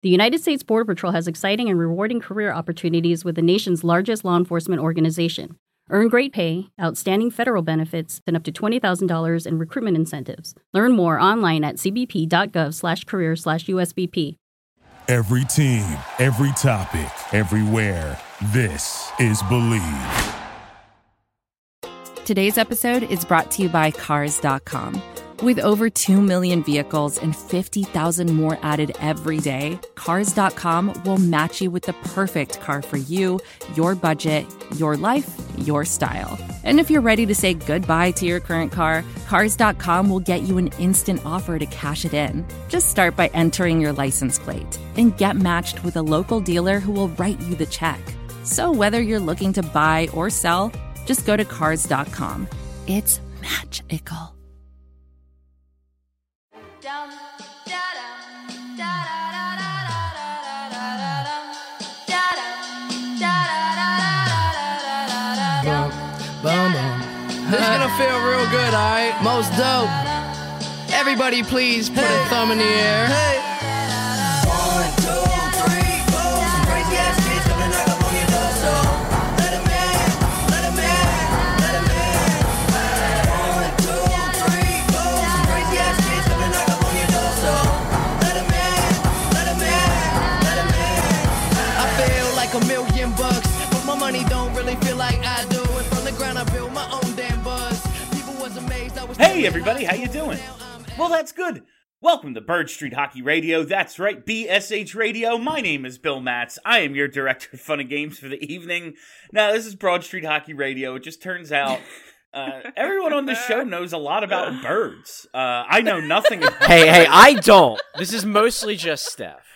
The United States Border Patrol has exciting and rewarding career opportunities with the nation's largest law enforcement organization. Earn great pay, outstanding federal benefits, and up to $20,000 in recruitment incentives. Learn more online at cbp.gov/career/USBP. Every team, every topic, everywhere. This is Believe. Today's episode is brought to you by Cars.com. With over 2 million vehicles and 50,000 more added every day, Cars.com will match you with the perfect car for you, your budget, your life, your style. And if you're ready to say goodbye to your current car, Cars.com will get you an instant offer to cash it in. Just start by entering your license plate and get matched with a local dealer who will write you the check. So whether you're looking to buy or sell, just go to Cars.com. It's magical. This is gonna feel real good, alright? Most dope. Everybody please put a thumb in the air. Hey. 1, 2, 3, 4. Some crazy ass kids gonna knock up on your door, so let 'em in, let 'em in, let 'em in. 1, 2, 3, 4. Some crazy ass kids gonna knock up on your door, so let 'em in, let 'em in, let 'em in. I feel like $1,000,000, but my money don't really feel like I do. And from the ground I built my own damn buzz. People was amazed I was. Hey everybody, how you doing? Well, that's good. Welcome to Bird Street Hockey Radio. That's right, BSH Radio. My name is Bill Matz. I am your director of fun and games for the evening. Now, this is Broad Street Hockey Radio. It just turns out everyone on this show knows a lot about birds. I know nothing about Hey, I don't. This is mostly just Steph.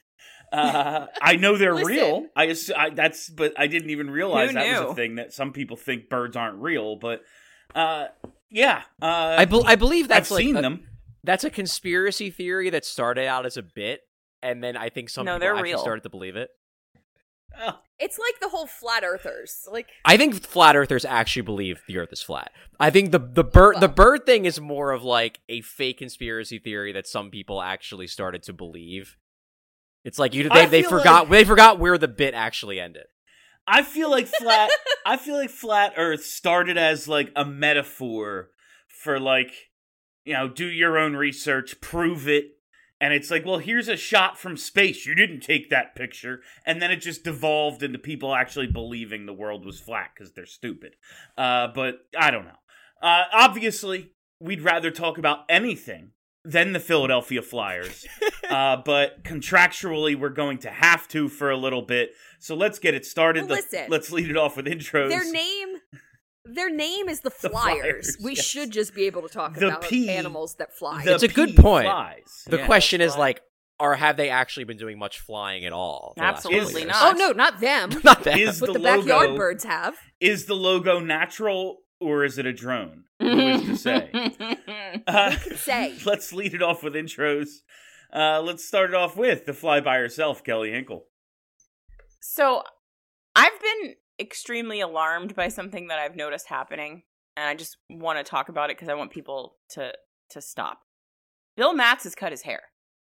I know they're real. But I didn't even realize that was a thing, that some people think birds aren't real. But yeah, I believe that's I've seen them. That's a conspiracy theory that started out as a bit, and then I think some people actually started to believe it. It's like the whole flat earthers. I think flat earthers actually believe the Earth is flat. I think the bird thing is more of like a fake conspiracy theory that some people actually started to believe. It's like they forgot where the bit actually ended. I feel like flat Earth started as like a metaphor for like, do your own research, prove it. And it's like, well, here's a shot from space. You didn't take that picture. And then it just devolved into people actually believing the world was flat because they're stupid. But I don't know. Obviously, we'd rather talk about anything than the Philadelphia Flyers. But contractually, we're going to have to for a little bit. So let's get it started. Well, listen, let's lead it off with intros. Their name is the Flyers. We should just be able to talk about animals that fly. It's a good point. The question is have they actually been doing much flying at all? Absolutely not. Oh no, not them. Not them. But the backyard birds have. Is the logo natural or is it a drone? Who is to say? Who can say? Let's lead it off with intros. Let's start it off with the fly by herself, Kelly Hinkle. So, I've been extremely alarmed by something that I've noticed happening, and I just want to talk about it because I want people to stop. Bill Matz has cut his hair.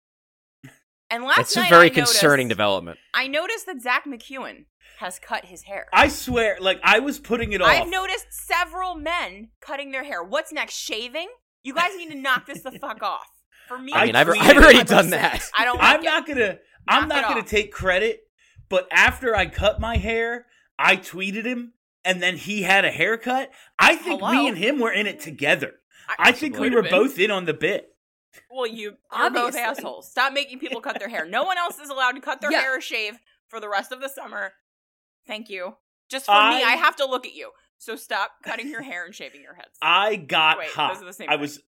And That's a very concerning development. I noticed that Zach McEwen has cut his hair. I swear, I was putting it off. I've noticed several men cutting their hair. What's next? Shaving? You guys need to knock this the fuck off. For me, I've already done that. I don't. I'm not gonna take credit, but after I cut my hair, I tweeted him, and then he had a haircut. I think me and him were in it together. I think we were both in on the bit. Well, you're both assholes. Stop making people cut their hair. No one else is allowed to cut their hair or shave for the rest of the summer. Thank you. Just for me, I have to look at you. So stop cutting your hair and shaving your heads. I got hot. Those are the same I was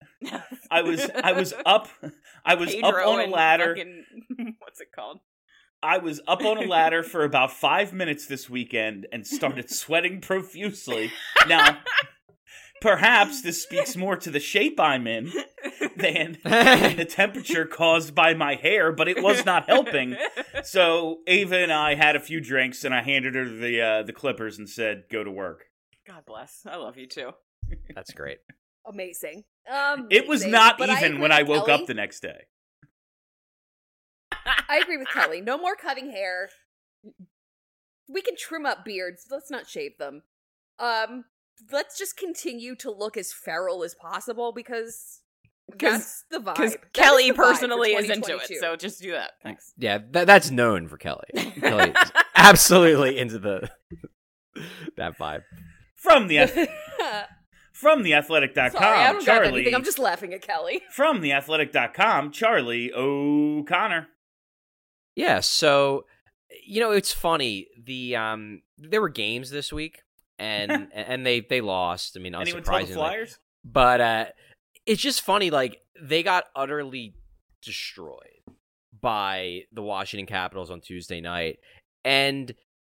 up Pedro on a ladder. What's it called? I was up on a ladder for about 5 minutes this weekend and started sweating profusely. Now, perhaps this speaks more to the shape I'm in than the temperature caused by my hair, but it was not helping. So Ava and I had a few drinks, and I handed her the clippers and said, "Go to work." God bless. I love you too. That's great. Amazing. It was not even when I woke up the next day. I agree with Kelly. No more cutting hair. We can trim up beards. Let's not shave them. Let's just continue to look as feral as possible because that's the vibe. Because Kelly personally is into it, so just do that. Thanks. Yeah, that's known for Kelly. Kelly is absolutely into that vibe. From the Athletic.com, Sorry, I don't Charlie. got anything. I'm just laughing at Kelly. From the Athletic.com, Charlie O'Connor. Yeah, so it's funny. There were games this week, and they lost. I mean, unsurprisingly. Anyone tell the Flyers? But it's just funny. Like they got utterly destroyed by the Washington Capitals on Tuesday night, and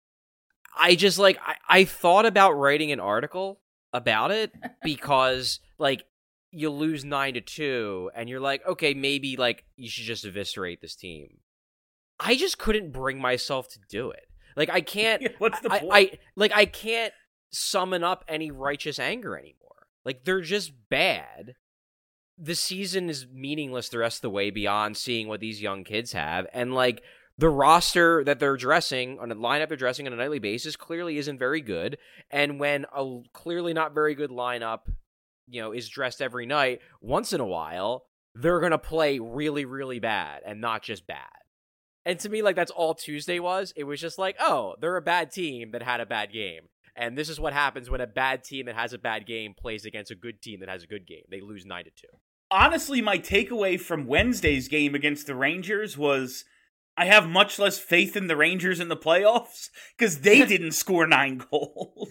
I just I thought about writing an article about it because you lose 9-2, and you're like, okay, maybe you should just eviscerate this team. I just couldn't bring myself to do it. I can't. What's the point? I can't summon up any righteous anger anymore. They're just bad. The season is meaningless the rest of the way beyond seeing what these young kids have, and the roster that they're dressing on a lineup they're dressing on a nightly basis clearly isn't very good. And when a clearly not very good lineup, is dressed every night, once in a while they're gonna play really, really bad and not just bad. And to me, that's all Tuesday was. It was just oh, they're a bad team that had a bad game. And this is what happens when a bad team that has a bad game plays against a good team that has a good game. They lose 9-2. Honestly, my takeaway from Wednesday's game against the Rangers was I have much less faith in the Rangers in the playoffs because they didn't score 9 goals.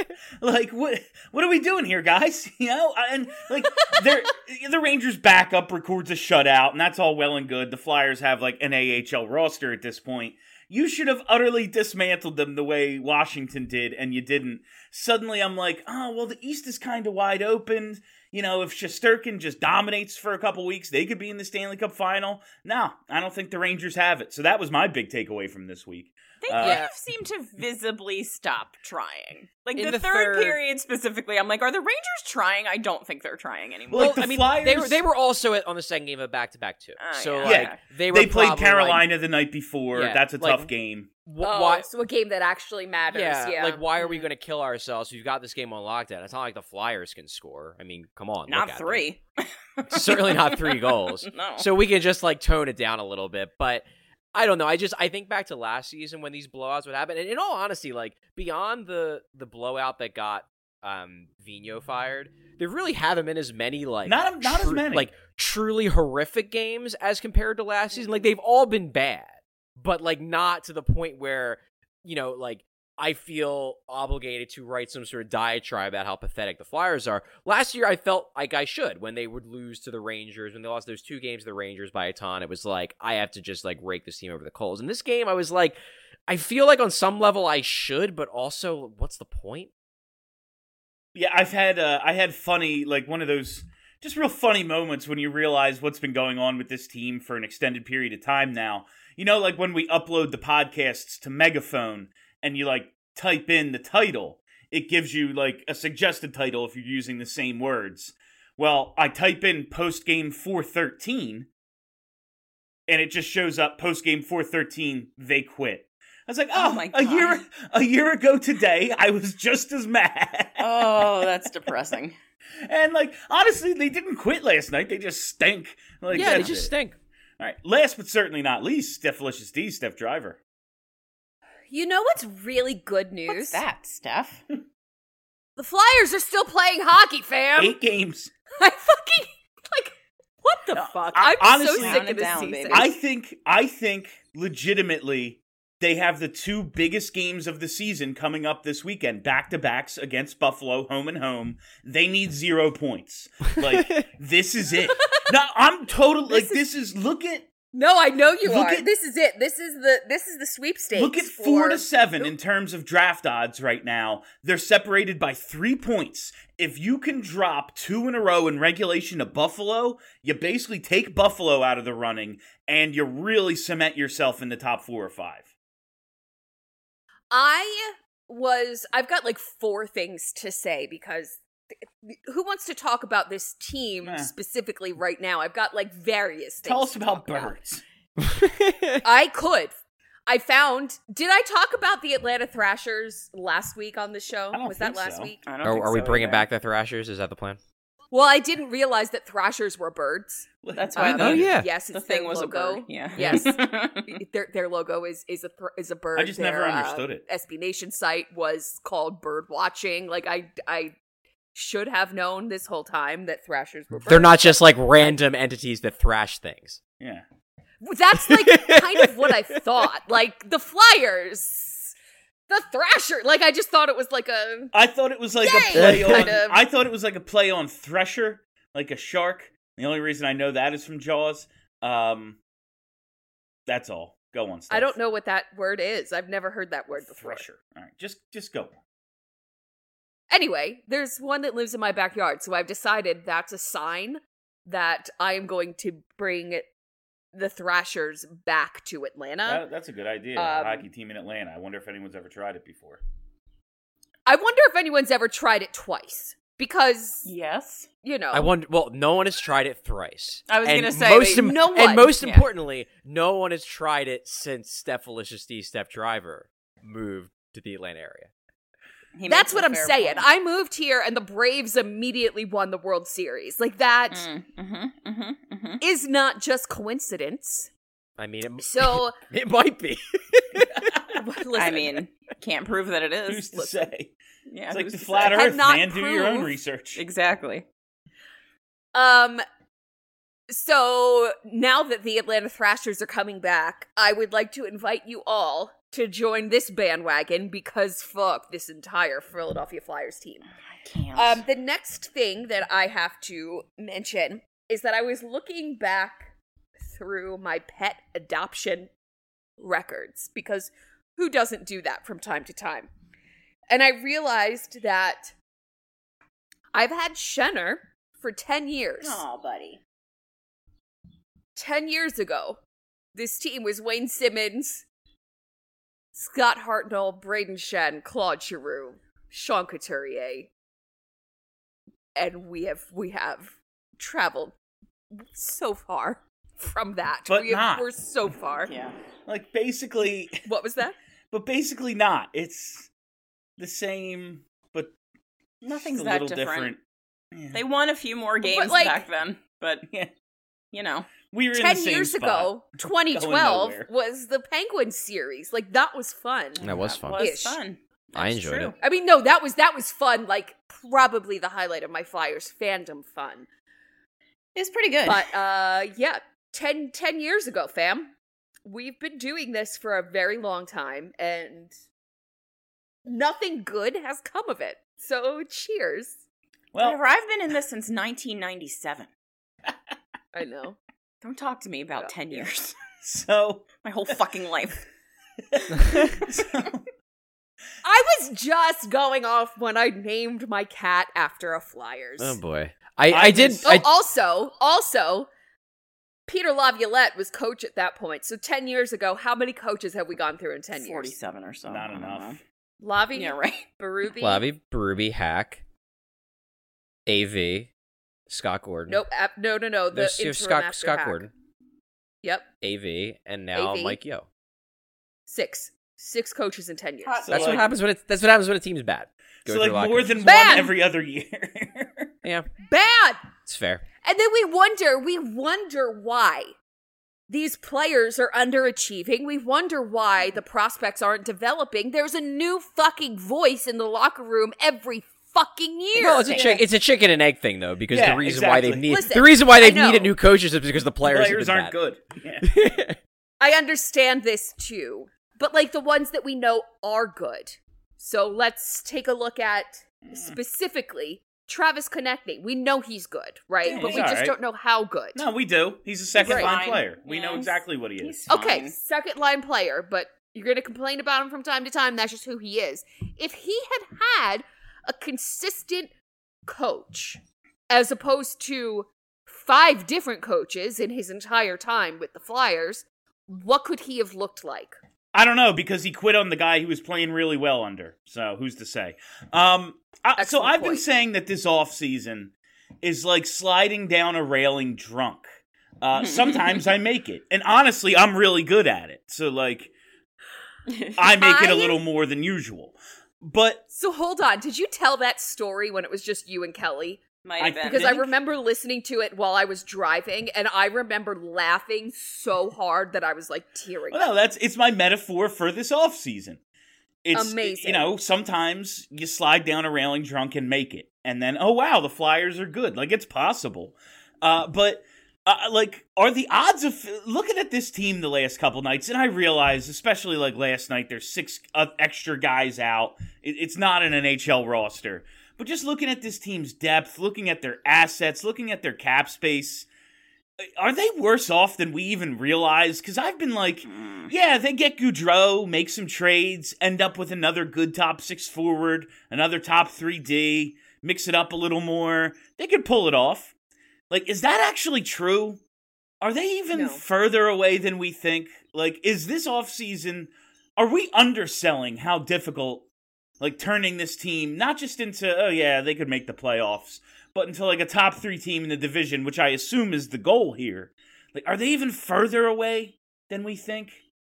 What are we doing here, guys? And the Rangers backup records a shutout, and that's all well and good. The Flyers have an AHL roster at this point. You should have utterly dismantled them the way Washington did, and you didn't. Suddenly I'm the East is kind of wide open. If Shesterkin just dominates for a couple weeks, they could be in the Stanley Cup final. No, I don't think the Rangers have it. So that was my big takeaway from this week. They seem to visibly stop trying. The third period specifically, I'm are the Rangers trying? I don't think they're trying anymore. Flyers, they were also on the second game of back-to-back too. They played Carolina the night before. That's a tough game. Why? So a game that actually matters. Yeah. Why are we going to kill ourselves? We've got this game on lockdown. It's not like the Flyers can score. I mean, come on. Not 3. Certainly not 3 goals. No. So we can just tone it down a little bit. But I don't know. I think back to last season when these blowouts would happen. And in all honesty, beyond the blowout that got Vigneault fired, there really haven't been as many not as many truly horrific games as compared to last season. They've all been bad. But not to the point where, I feel obligated to write some sort of diatribe about how pathetic the Flyers are. Last year, I felt like I should when they would lose to the Rangers. When they lost those 2 games to the Rangers by a ton, it was I have to just rake this team over the coals. In this game, I was I feel on some level I should, but also, what's the point? Yeah, I had funny, one of those just real funny moments when you realize what's been going on with this team for an extended period of time now. When we upload the podcasts to Megaphone and you type in the title, it gives you a suggested title if you're using the same words. Well, I type in postgame 413 and it just shows up postgame 413, they quit. I was oh my God. a year ago today, I was just as mad. Oh, that's depressing. And honestly, they didn't quit last night. They just stink. They just stink. All right, last but certainly not least, Stephalicious D, Steph Driver. You know what's really good news? What's that, Steph? The Flyers are still playing hockey, fam. 8 games. I fucking what the fuck? I'm honestly, so sick of this season. I think legitimately they have the 2 biggest games of the season coming up this weekend, back-to-backs against Buffalo, home and home. They need 0 points. This is it. No, I'm totally look at. No, I know you are. This is it. This is the sweepstakes. Look at 4-7 in terms of draft odds right now. They're separated by 3 points. If you can drop 2 in a row in regulation to Buffalo, you basically take Buffalo out of the running and you really cement yourself in the top 4 or 5. I've got 4 things to say because who wants to talk about this team specifically right now? I've got various things. Tell us about Birds. I could. I found. Did I talk about the Atlanta Thrashers last week on the show? I don't Was that think last so. week? I don't think Are we so bringing either. back the Thrashers? Is that the plan? Well, I didn't realize that Thrashers were birds. That's why. Oh, yeah. Yes, The it's thing their was logo. a bird. Yeah. Yes, their logo is a bird. I just never Their, understood it. SB Nation site was called Bird Watching. Like I should have known this whole time that Thrashers were birds. They're not just like random entities that thrash things. Yeah. That's like kind of what I thought. Like the Flyers, the Thrasher. Like I just thought it was like a. I thought it was like Yay! a play on. Kind of. I thought it was like a play on Thresher, like a shark. The only reason I know that is from Jaws. That's all. Go on. Steph. I don't know what that word is. I've never heard that word before. Thresher. All right, just go. Anyway, there's one that lives in my backyard, so I've decided that's a sign that I am going to bring the Thrashers back to Atlanta. That's a good idea. A hockey team in Atlanta. I wonder if anyone's ever tried it before. I wonder if anyone's ever tried it twice. Because, Yes. you know. I wonder. Well, no one has tried it thrice. I was And gonna say, most no one. And most Yeah. importantly, no one has tried it since Steph Steph Driver moved to the Atlanta area. He That's makes what a I'm fair saying. point. I moved here and the Braves immediately won the World Series. Like, that is not just coincidence. I mean, So, it might be. listen, I mean, can't prove that it is. Who's to listen. say? Yeah, It's like who's the to flat say? Had Earth, not man. Do your own proved- research. Exactly. So now that the Atlanta Thrashers are coming back, I would like to invite you all to join this bandwagon because fuck this entire Philadelphia Flyers team. I can't. The next thing that I have to mention is that I was looking back through my pet adoption records because who doesn't do that from time to time? And I realized that I've had Shenner for 10 years. Aw, buddy. 10 years ago, this team was Wayne Simmons, Scott Hartnell, Braden Shen, Claude Giroux, Sean Couturier, and we have traveled so far from that. But not. We're so far. Yeah. Like, basically, What was that? but basically not. It's the same, but Nothing's just a that little different. Yeah. They won a few more games like- back then, but, Yeah. you know. We were in 10 the same years spot. ago, Going 2012 nowhere. was the Penguins series. Like, that was fun. That was fun. Was Ish. fun. I That's enjoyed true. it. I mean, no, that was fun. Like, probably the highlight of my Flyers fandom fun. It's pretty good. But yeah, 10 years ago, fam. We've been doing this for a very long time, and nothing good has come of it. So cheers. Well, Whatever, I've been in this since 1997. I know. Don't talk to me about Yeah. 10 years. so My whole fucking life. I was just going off when I named my cat after a Flyers. Oh boy, I did. Also, Peter Laviolette was coach at that point. So 10 years ago, how many coaches have we gone through in 10 years? 47 or so. Not I don't enough. know. Lavi, Yeah, right. Berube. Lavi, Berube, Hack, AV, Scott Gordon. Nope. No. The There's interim Scott after Scott Hack. Gordon, Yep. AV, and now AV. Mike Yo. 6 coaches in 10 years. Hot So, That's like- what happens when that's what happens when a team's bad. Go so through like locker more rooms. than Bad! one every other year. Yeah, Bad. it's fair. And then we wonder why these players are underachieving. We wonder why the prospects aren't developing. There's a new fucking voice in the locker room every fucking year. Well, it's a chicken and egg thing though, because Yeah, the reason why exactly. they've Listen, the reason why I they've know. needed new coaches is because the players, Players have aren't been good. Yeah. good. I understand this too. But like the ones that we know are good. So let's take a look at specifically Travis Konechny. We know he's good, right? Yeah, but he's we just alright. don't know how good. No, we do. He's a second Right. line Fine. player. We Yeah, know he's- exactly what he is. he's Okay, fine. second line player, but you're going to complain about him from time to time. That's just who he is. If he had a consistent coach, as opposed to 5 different coaches in his entire time with the Flyers, what could he have looked like? I don't know, because he quit on the guy he was playing really well under. So who's to say? So Excellent I've been point. saying that this offseason is like sliding down a railing drunk. Sometimes I make it. And honestly, I'm really good at it. So, like, I make it a little more than usual. But So hold on, did you tell that story when it was just you and Kelly? Might have been. Because I remember listening to it while I was driving, and I remember laughing so hard that I was like tearing up. well, it's my metaphor for this off season. It's Amazing. You know, sometimes you slide down a railing drunk and make it, and then oh wow, the Flyers are good. Like, it's possible. But like, are the odds of looking at this team the last couple nights? And I realize, especially like last night, there's 6 extra guys out. It's not an NHL roster. But just looking at this team's depth, looking at their assets, looking at their cap space, are they worse off than we even realize? Because I've been like, yeah, they get Goudreau, make some trades, end up with another good top 6 forward, another top 3D, mix it up a little more. They could pull it off. Like, is that actually true? Are they even further away than we think? Like, is this offseason, are we underselling how difficult, like, turning this team, not just into, oh yeah, they could make the playoffs, but into, like, a top 3 team in the division, which I assume is the goal here. Like, are they even further away than we think?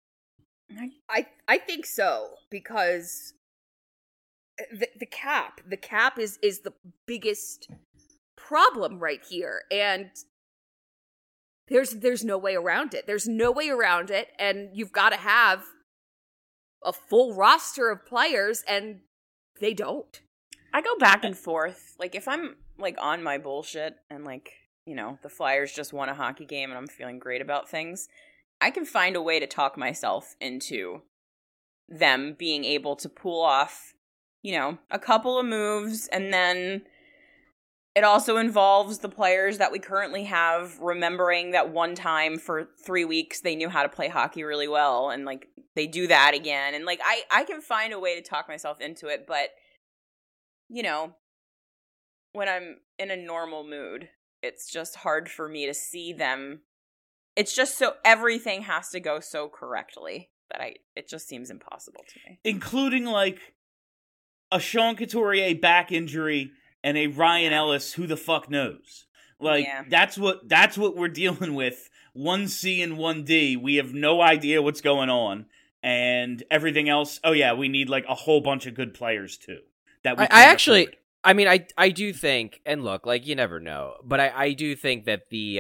I think so, because the cap is the biggest problem right here, and there's no way around it. There's no way around it, and you've got to have a full roster of players, and they don't. I go back and forth. Like, if I'm, like, on my bullshit and, like, you know, the Flyers just won a hockey game and I'm feeling great about things, I can find a way to talk myself into them being able to pull off, you know, a couple of moves, and then it also involves the players that we currently have remembering that one time for 3 weeks they knew how to play hockey really well, and, like, they do that again. And, like, I can find a way to talk myself into it, but, you know, when I'm in a normal mood, it's just hard for me to see them. It's just so everything has to go so correctly that it just seems impossible to me. Including, like, a Sean Couturier back injury and a Ryan Ellis, who the fuck knows? Like, that's what we're dealing with. 1C and 1D. We have no idea what's going on. And everything else, oh yeah, we need, like, a whole bunch of good players, too. That we I actually, afford. I mean, I do think, and look, like, you never know, but I do think that the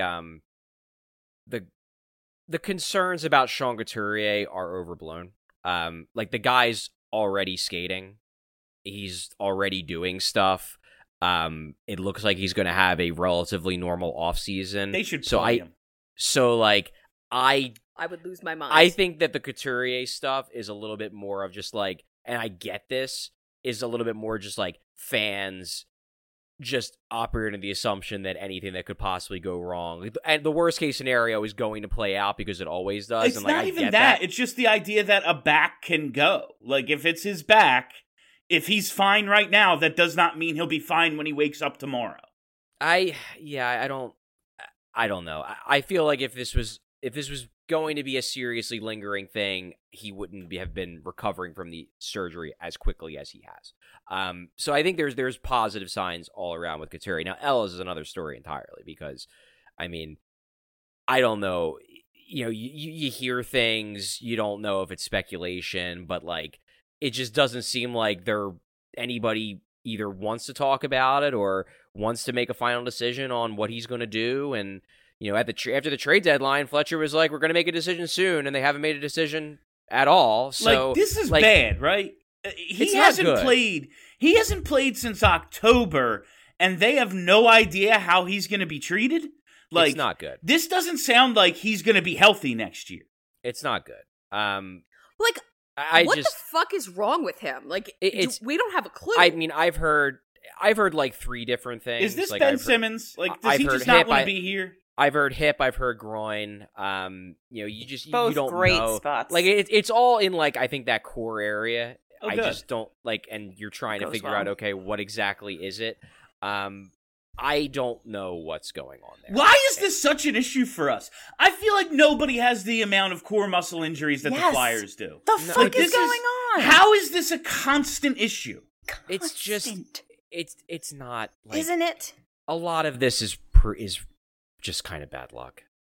concerns about Sean Couturier are overblown. Like, the guy's already skating. He's already doing stuff. It looks like he's going to have a relatively normal offseason. They should play him. So, like, I would lose my mind. I think that the Couturier stuff is a little bit more of just, like, and I get this, is a little bit more just, like, fans just operating the assumption that anything that could possibly go wrong, and the worst case scenario is going to play out because it always does. It's and, like, not even that. It's just the idea that a back can go. Like, if it's his back, if he's fine right now, that does not mean he'll be fine when he wakes up tomorrow. I don't know. I feel like if this was going to be a seriously lingering thing, he wouldn't have been recovering from the surgery as quickly as he has. So I think there's positive signs all around with Couturier. Now, Ellis is another story entirely because, I mean, I don't know. You know, you hear things, you don't know if it's speculation, but, like, it just doesn't seem like anybody either wants to talk about it or wants to make a final decision on what he's going to do. And, you know, after the trade deadline, Fletcher was like, we're going to make a decision soon, and they haven't made a decision at all. So, like, this is bad, right? He hasn't played since October, and they have no idea how he's going to be treated. Like, it's not good. This doesn't sound like he's going to be healthy next year. It's not good. Like, what the fuck is wrong with him? Like, we don't have a clue. I mean, I've heard like 3 different things. Is this like, Ben Simmons? Like, does he just not want to be here? I've heard hip. I've heard groin. You know, both you don't great know. Spots. Like, it's all in, like, I think that core area. Oh, I good. just don't like, and you're trying to figure out, okay, what exactly is it? I don't know what's going on there. Why is this such an issue for us? I feel like nobody has the amount of core muscle injuries that the Flyers do. The fuck is going on? How is this a constant issue? It's just, it's not. Like, isn't it? A lot of this is just kind of bad luck.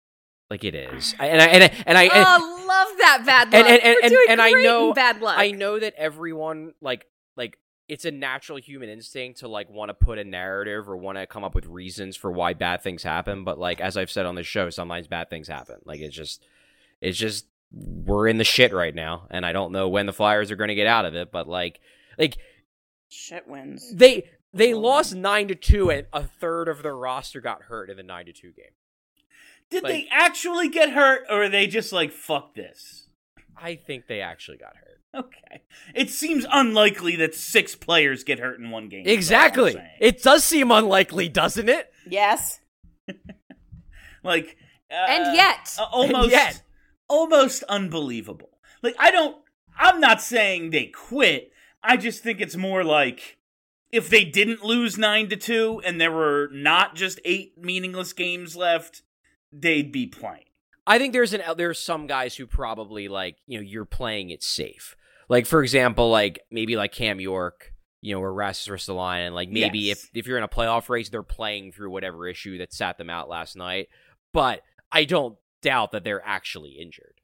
Like it is. I love that bad luck. We're doing I great know in bad luck. I know that everyone like it's a natural human instinct to like want to put a narrative or want to come up with reasons for why bad things happen, but like as I've said on the show, sometimes bad things happen. Like it's just we're in the shit right now, and I don't know when the Flyers are going to get out of it, but like shit wins. They lost 9-2 and a third of their roster got hurt in the 9-2 game. Did they actually get hurt, or are they just like, fuck this? I think they actually got hurt. Okay. It seems unlikely that 6 players get hurt in one game. Exactly. It does seem unlikely, doesn't it? Yes. Like, and yet. Almost unbelievable. Like, I'm not saying they quit. I just think it's more like, if they didn't lose 9-2 and there were not just 8 meaningless games left, they'd be playing. I think there's some guys who probably like, you're playing it safe. Like, for example, like maybe like Cam York, or Rasmus Ristolainen, like maybe if you're in a playoff race, they're playing through whatever issue that sat them out last night. But I don't doubt that they're actually injured.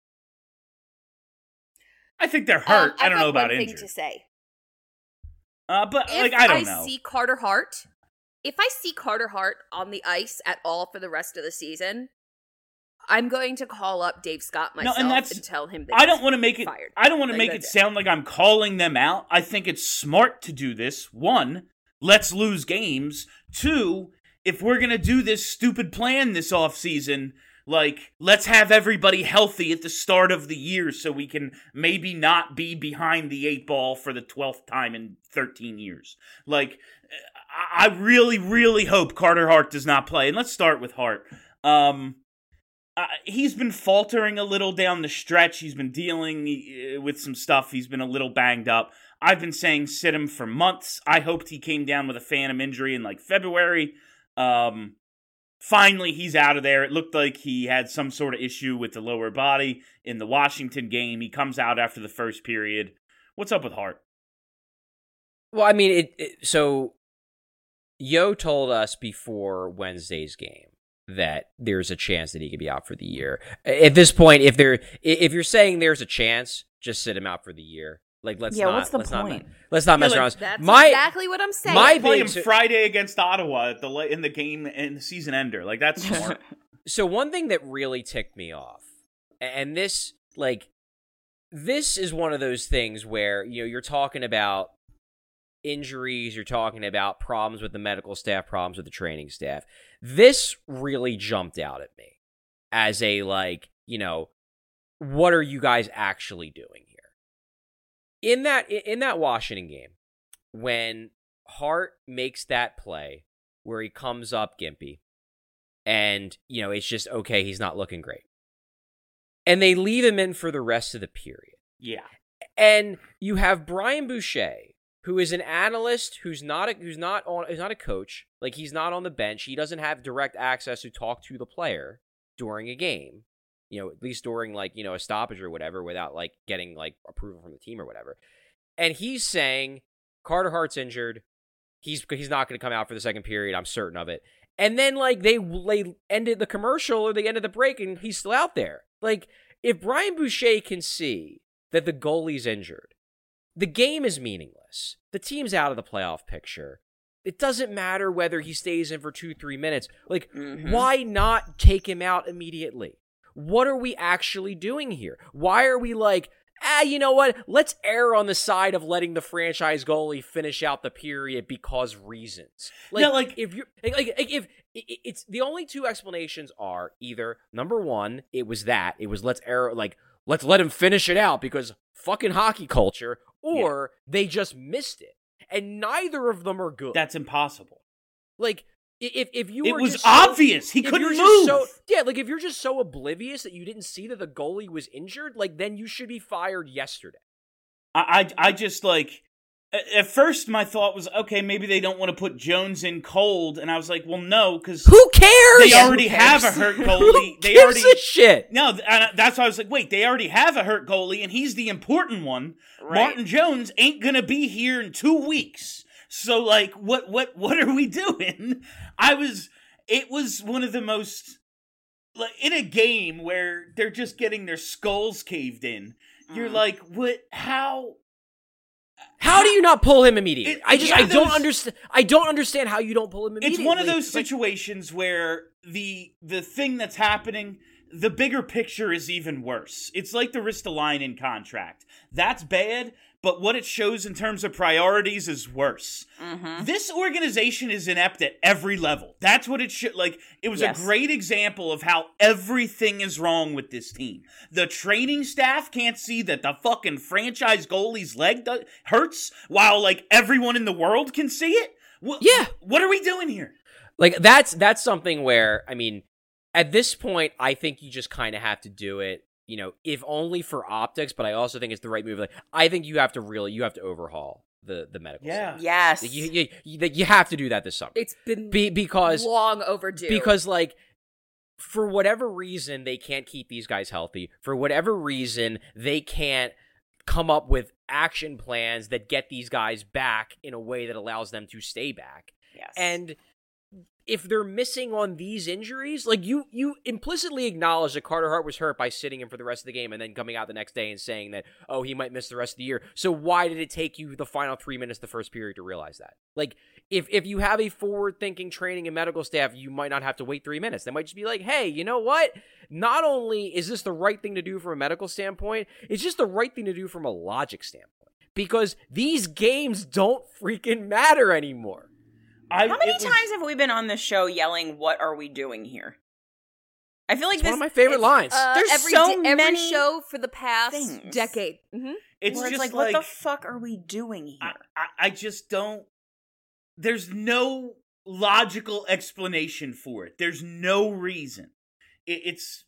I think they're hurt. I don't know about one injured. Thing to say. But if like I don't know. If I see Carter Hart on the ice at all for the rest of the season, I'm going to call up Dave Scott myself and tell him that I don't want to make it fired. I don't want to make it sound like I'm calling them out. I think it's smart to do this. 1, let's lose games. 2, if we're going to do this stupid plan this offseason, like, let's have everybody healthy at the start of the year so we can maybe not be behind the 8 ball for the 12th time in 13 years. Like, I really, really hope Carter Hart does not play. And let's start with Hart. He's been faltering a little down the stretch. He's been dealing with some stuff. He's been a little banged up. I've been saying sit him for months. I hoped he came down with a phantom injury in like February. Finally, he's out of there. It looked like he had some sort of issue with the lower body in the Washington game. He comes out after the first period. What's up with Hart? Well, I mean, so Yo told us before Wednesday's game that there's a chance that he could be out for the year. At this point, if you're saying there's a chance, just sit him out for the year. Like, let's not mess around. That's exactly what I'm saying. Play him Friday against Ottawa in the game in the season ender. Like, that's smart. So one thing that really ticked me off, and this is one of those things where you're talking about injuries, you're talking about problems with the medical staff, problems with the training staff. This really jumped out at me as a what are you guys actually doing here? In that Washington game, when Hart makes that play where he comes up gimpy, and it's just okay, he's not looking great, and they leave him in for the rest of the period. Yeah, and you have Brian Boucher, who is an analyst, who's not a coach. Like, he's not on the bench. He doesn't have direct access to talk to the player during a game, at least during a stoppage or whatever, without getting approval from the team or whatever. And he's saying Carter Hart's injured. He's not going to come out for the second period. I'm certain of it. And then they ended the commercial or they ended the break and he's still out there. Like, if Brian Boucher can see that the goalie's injured, the game is meaningless. The team's out of the playoff picture. It doesn't matter whether he stays in for 2-3 minutes. Why not take him out immediately? What are we actually doing here? Why are we you know what? Let's err on the side of letting the franchise goalie finish out the period because reasons. If it's the only two explanations are either number one, it was let's err, let's let him finish it out because fucking hockey culture, or they just missed it. And neither of them are good. That's impossible. If you it were was just obvious. He couldn't move. If you're just so oblivious that you didn't see that the goalie was injured, then you should be fired yesterday. I just at first my thought was, okay, maybe they don't want to put Jones in cold, and I was like, well, no, because who cares? They already have a hurt goalie. Who gives a shit? No, that's why I was like, wait, they already have a hurt goalie, and he's the important one. Right. Martin Jones ain't gonna be here in 2 weeks. So what are we doing? It was one of the most like in a game where they're just getting their skulls caved in, you're like, what? How do you not pull him immediately? I don't those- understand. I don't understand how you don't pull him immediately. It's one of those situations where the thing that's happening, the bigger picture is even worse. It's like the Ristolainen contract. That's bad, but what it shows in terms of priorities is worse. This organization is inept at every level. That's what it should, like, it was a great example of how everything is wrong with this team. The training staff can't see that the fucking franchise goalie's leg hurts, while, like, everyone in the world can see it? What are we doing here? Like, that's something where, I mean, at this point, I think you just kind of have to do it, you know, if only for optics, but I also think it's the right move. Like, I think you have to overhaul the medical staff. Yes. Like, you have to do that this summer. It's been because long overdue. Because, like, for whatever reason, they can't keep these guys healthy. For whatever reason, they can't come up with action plans that get these guys back in a way that allows them to stay back. Yes. And if they're missing on these injuries, like you implicitly acknowledge that Carter Hart was hurt by sitting him for the rest of the game and then coming out the next day and saying that, oh, he might miss the rest of the year. So why did it take you the final 3 minutes the first period to realize that? Like, if you have a forward-thinking training and medical staff, you might not have to wait 3 minutes. They might just be like, hey, you know what? Not only is this the right thing to do from a medical standpoint, it's just the right thing to do from a logic standpoint. Because these games don't freaking matter anymore. How many times have we been on this show yelling, what are we doing here? I feel like it's one of my favorite lines. There's every show for the past decade. It's where just like, what the fuck are we doing here? I just don't. There's no logical explanation for it. There's no reason. It's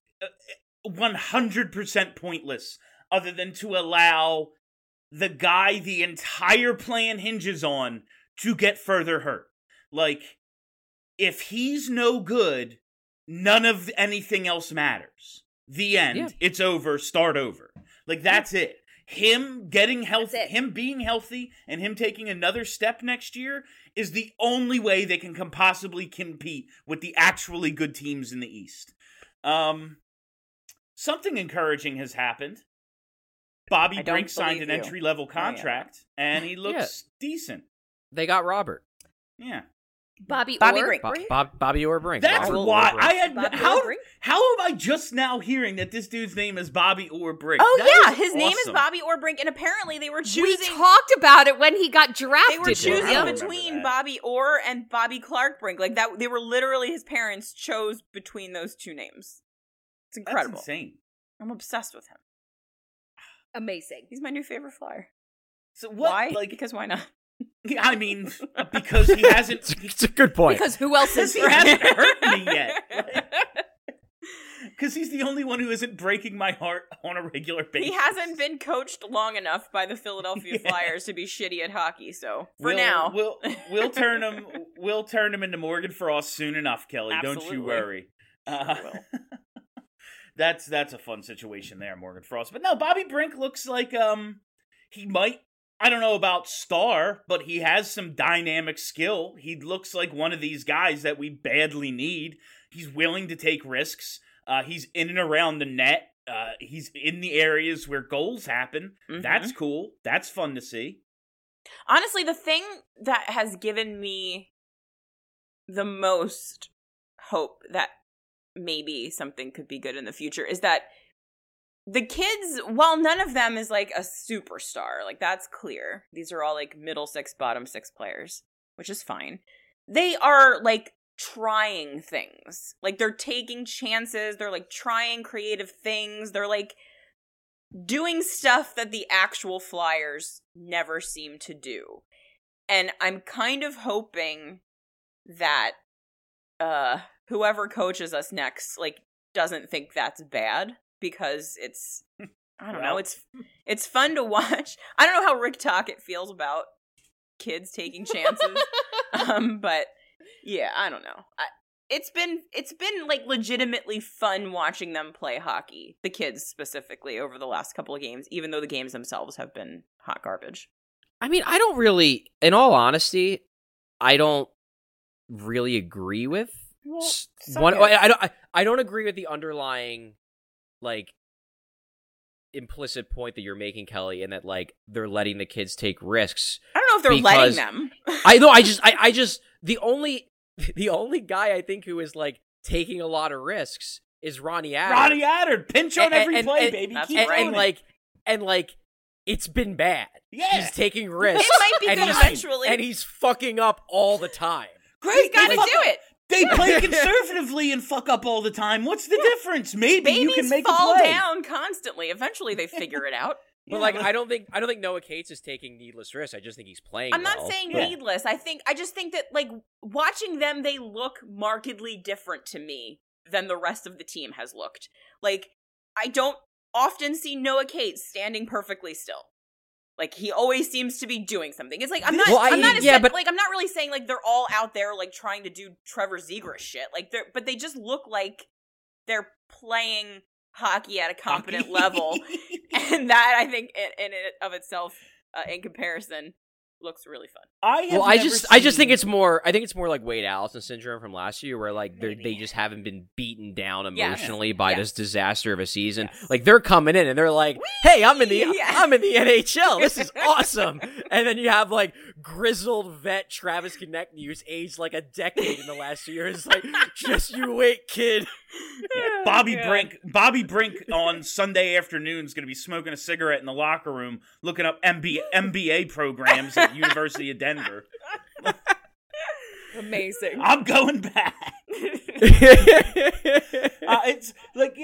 100% pointless, other than to allow the guy the entire plan hinges on to get further hurt. Like, if he's no good, none of anything else matters. The end. Yeah. It's over. Start over. Like, that's it. Him getting healthy, him being healthy, and him taking another step next year is the only way they can possibly compete with the actually good teams in the East. Something encouraging has happened. Bobby Brink signed an entry-level contract, and he looks decent. They got Robert. Yeah. Bobby Orr Brink. Bobby Orr Brink. That's why I had how am I just now hearing that this dude's name is Bobby Orr Brink? Oh his name is Bobby Orr Brink, and apparently they were choosing. We talked about it when he got drafted. They were choosing between Bobby Orr and Bobby Clark Brink, like that. They were literally his parents chose between those two names. It's incredible. That's insane. I'm obsessed with him. Amazing. He's my new favorite Flyer. So what? Why? Because why not? I mean, because he hasn't. It's a good point. Because who else is? He hasn't hurt me yet. Because he's the only one who isn't breaking my heart on a regular basis. He hasn't been coached long enough by the Philadelphia Flyers to be shitty at hockey. So now, we'll turn him. We'll turn him into Morgan Frost soon enough, Kelly. Absolutely. Don't you worry. That's a fun situation there, Morgan Frost. But no, Bobby Brink looks like he might. I don't know about star, but he has some dynamic skill. He looks like one of these guys that we badly need. He's willing to take risks. He's in and around the net. He's in the areas where goals happen. Mm-hmm. That's cool. That's fun to see. Honestly, the thing that has given me the most hope that maybe something could be good in the future is that the kids, while none of them is like a superstar, like that's clear. These are all like middle six, bottom six players, which is fine. They are like trying things. Like they're taking chances. They're like trying creative things. They're like doing stuff that the actual Flyers never seem to do. And I'm kind of hoping that whoever coaches us next like doesn't think that's bad. Because it's, I don't know, it's fun to watch. I don't know how Rick Tocchet feels about kids taking chances, but yeah, I don't know. It's been like legitimately fun watching them play hockey, the kids specifically, over the last couple of games, even though the games themselves have been hot garbage. I mean, I don't really, in all honesty, I don't really agree with I don't agree with the underlying, like, implicit point that you're making, Kelly, in that, like, they're letting the kids take risks. I don't know if they're letting them. I just the only guy I think who is, like, taking a lot of risks is Ronnie Attard. Ronnie Attard, pinch on every play, baby. Keep and it's been bad. Yeah, he's taking risks. It might be good eventually, and he's fucking up all the time. Great, he's got to do it. They play conservatively and fuck up all the time. What's the difference? Maybe Babies you can make fall a play. down constantly. Eventually, they figure it out. But like, I don't think Noah Cates is taking needless risks. I just think he's playing. I'm not saying needless. I just think that, like, watching them, they look markedly different to me than the rest of the team has looked. Like, I don't often see Noah Cates standing perfectly still. Like, he always seems to be doing something. It's like, I'm not really saying, like, they're all out there, like, trying to do Trevor Zegras shit. Like, but they just look like they're playing hockey at a competent level. And that, I think, in it of itself, in comparison, looks really fun. I just think it's more like Wade Allison syndrome from last year, where like they just haven't been beaten down emotionally by this disaster of a season. Yes. Like, they're coming in and they're like, "Hey, I'm in the NHL. This is awesome." And then you have like grizzled vet Travis Konecny, who's aged like a decade in the last 2 years. Like, just you wait, kid. Bobby Brink on Sunday afternoon is going to be smoking a cigarette in the locker room, looking up MBA programs at University of Denver. Amazing. I'm going back. It's like,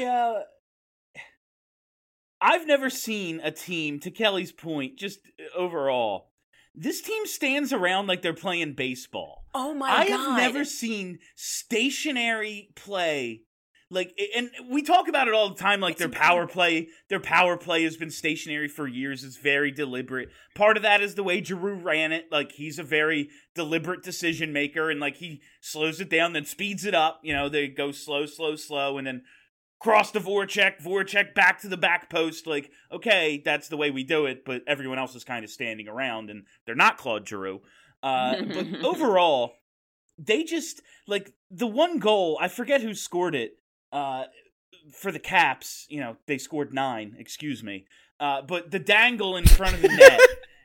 I've never seen a team, to Kelly's point, just overall, this team stands around like they're playing baseball. Oh my God. I have never seen stationary play. Like, and we talk about it all the time, like their power play has been stationary for years. It's very deliberate. Part of that is the way Giroux ran it. Like, he's a very deliberate decision maker, and like he slows it down, then speeds it up. You know, they go slow, and then cross to Voracek back to the back post. Like, okay, that's the way we do it, but everyone else is kind of standing around, and they're not Claude Giroux. But overall, they just, like, the one goal, I forget who scored it, for the Caps, you know, they scored 9, excuse me. But the dangle in front of the net.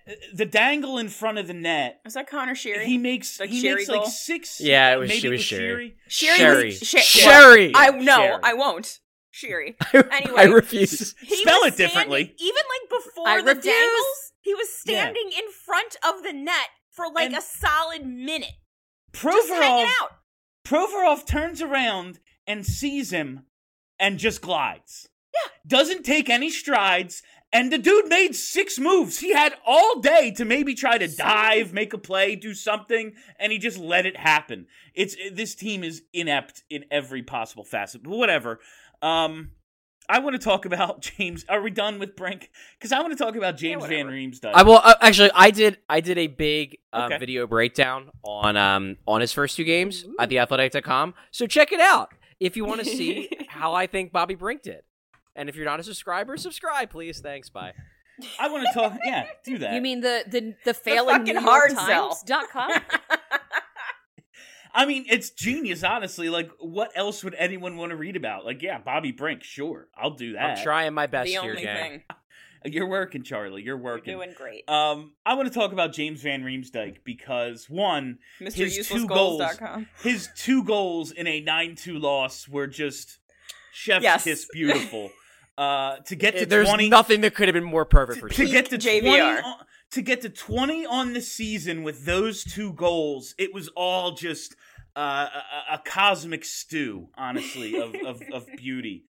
Was that Connor Sheary? He makes like 6. Yeah, it was Sheary. Sherry. I won't. Sheary. Anyway, I refuse. Spell it differently. Even like before the dangles, he was standing in front of the net for like a solid minute. Just hanging out. Provorov turns around and sees him and just glides. Yeah. Doesn't take any strides, and the dude made 6 moves. He had all day to maybe try to dive, make a play, do something, and he just let it happen. This team is inept in every possible facet, but whatever. I want to talk about James. Are we done with Brink? Because I want to talk about James Van Riemsdyk. Actually, I did a big video breakdown on his first 2 games at theathletic.com. So check it out if you want to see how I think Bobby Brink did. And if you're not a subscriber, subscribe, please. Thanks. Bye. I want to talk. Yeah, do that. You mean the failing fucking NewYorkTimes.com? I mean, it's genius, honestly. Like, what else would anyone want to read about? Like, yeah, Bobby Brink, sure. I'll do that. I'm trying my best The here, only gang. thing. You're working, Charlie. You're working. You're doing great. I want to talk about James Van Riemsdyk because, one, his 2 goals in a 9-2 loss were just chef's kiss beautiful. To get to There's 20, nothing that could have been more perfect for to you. get to JVR. 20 to get to 20 on the season with those 2 goals. It was all just a cosmic stew, honestly, of beauty.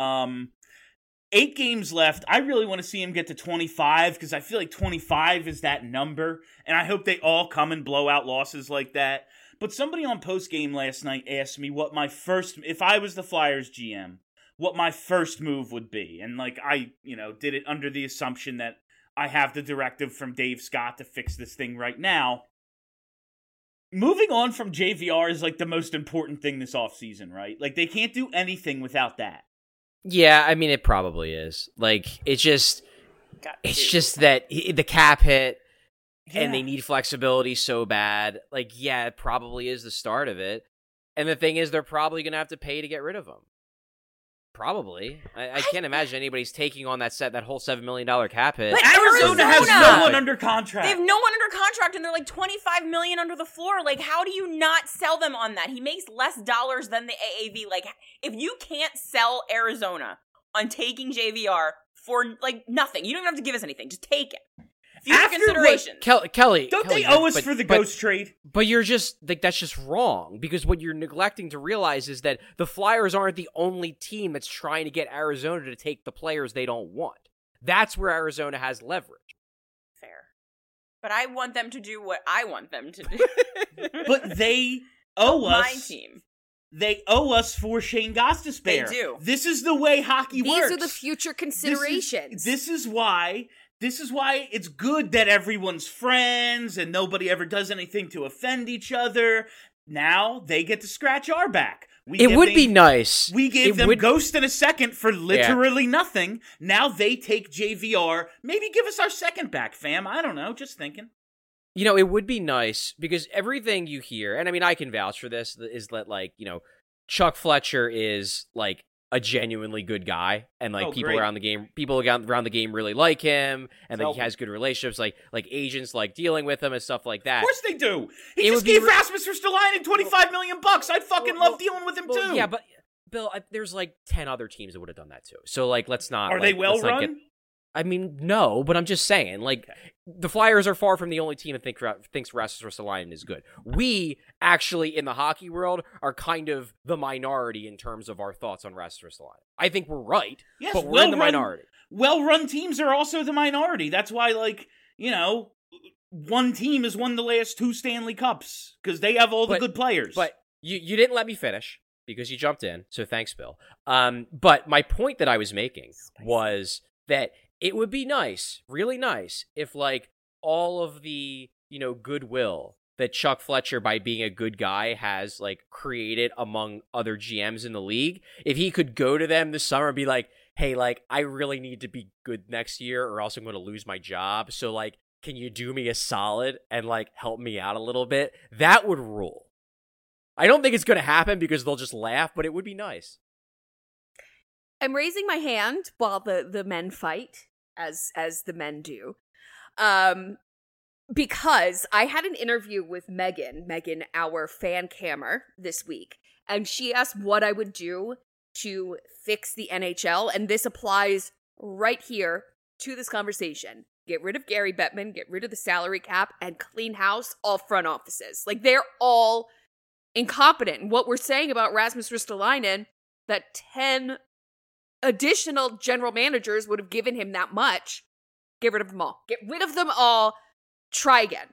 8 games left. I really want to see him get to 25 because I feel like 25 is that number, and I hope they all come and blow out losses like that. But somebody on postgame last night asked me what my first, if I was the Flyers GM, what my first move would be. And like I, did it under the assumption that I have the directive from Dave Scott to fix this thing right now. Moving on from JVR is like the most important thing this offseason, right? Like they can't do anything without that. Yeah, I mean it probably is. Like it's just that the cap hit and they need flexibility so bad. Like yeah, it probably is the start of it. And the thing is, they're probably going to have to pay to get rid of him. Probably. I can't imagine anybody's taking on that whole $7 million cap hit. But Arizona has no one under contract. They have no one under contract, and they're like $25 million under the floor. Like, how do you not sell them on that? He makes less dollars than the AAV. Like, if you can't sell Arizona on taking JVR for, like, nothing, you don't even have to give us anything. Just take it. Future considerations. Kelly, don't they owe us for the ghost trade? But you're just, like, that's just wrong. Because what you're neglecting to realize is that the Flyers aren't the only team that's trying to get Arizona to take the players they don't want. That's where Arizona has leverage. Fair. But I want them to do what I want them to do. But they owe us. My team. They owe us for Shane Gostisbehere. They do. This is the way hockey works. These are the future considerations. This is why it's good that everyone's friends and nobody ever does anything to offend each other. Now they get to scratch our back. It would be nice. We gave them Ghost in a second for literally nothing. Now they take JVR. Maybe give us our second back, fam. I don't know. Just thinking. You know, it would be nice because everything you hear, and I mean, I can vouch for this, is that, like, you know, Chuck Fletcher is, like, a genuinely good guy, and, like, people around the game really like him, and like, he has good relationships, like agents like dealing with him and stuff like that. Of course they do. He just gave Rasmus Ristolainen $25 million. I'd fucking love dealing with him too. Yeah, but Bill, there's like 10 other teams that would have done that too. So, like, let's not. Are they well run? I mean, no, but I'm just saying, like, the Flyers are far from the only team that thinks Rasmus Ristolainen is good. We, actually, in the hockey world, are kind of the minority in terms of our thoughts on Rasmus Ristolainen. I think we're right, but we're in the minority. Well-run teams are also the minority. That's why, like, you know, one team has won the last 2 Stanley Cups, because they have all the good players. But you didn't let me finish, because you jumped in, so thanks, Bill. But my point that I was making was that it would be nice, really nice, if, like, all of the, you know, goodwill that Chuck Fletcher, by being a good guy, has, like, created among other GMs in the league, if he could go to them this summer and be like, hey, like, I really need to be good next year or else I'm going to lose my job. So, like, can you do me a solid and, like, help me out a little bit? That would rule. I don't think it's going to happen because they'll just laugh, but it would be nice. I'm raising my hand while the men fight, as the men do, because I had an interview with Megan, our fan cammer, this week, and she asked what I would do to fix the NHL, and this applies right here to this conversation. Get rid of Gary Bettman, get rid of the salary cap, and clean house all front offices. Like, they're all incompetent. And what we're saying about Rasmus Ristolainen, that 10 additional general managers would have given him that much. Get rid of them all. Get rid of them all. Try again.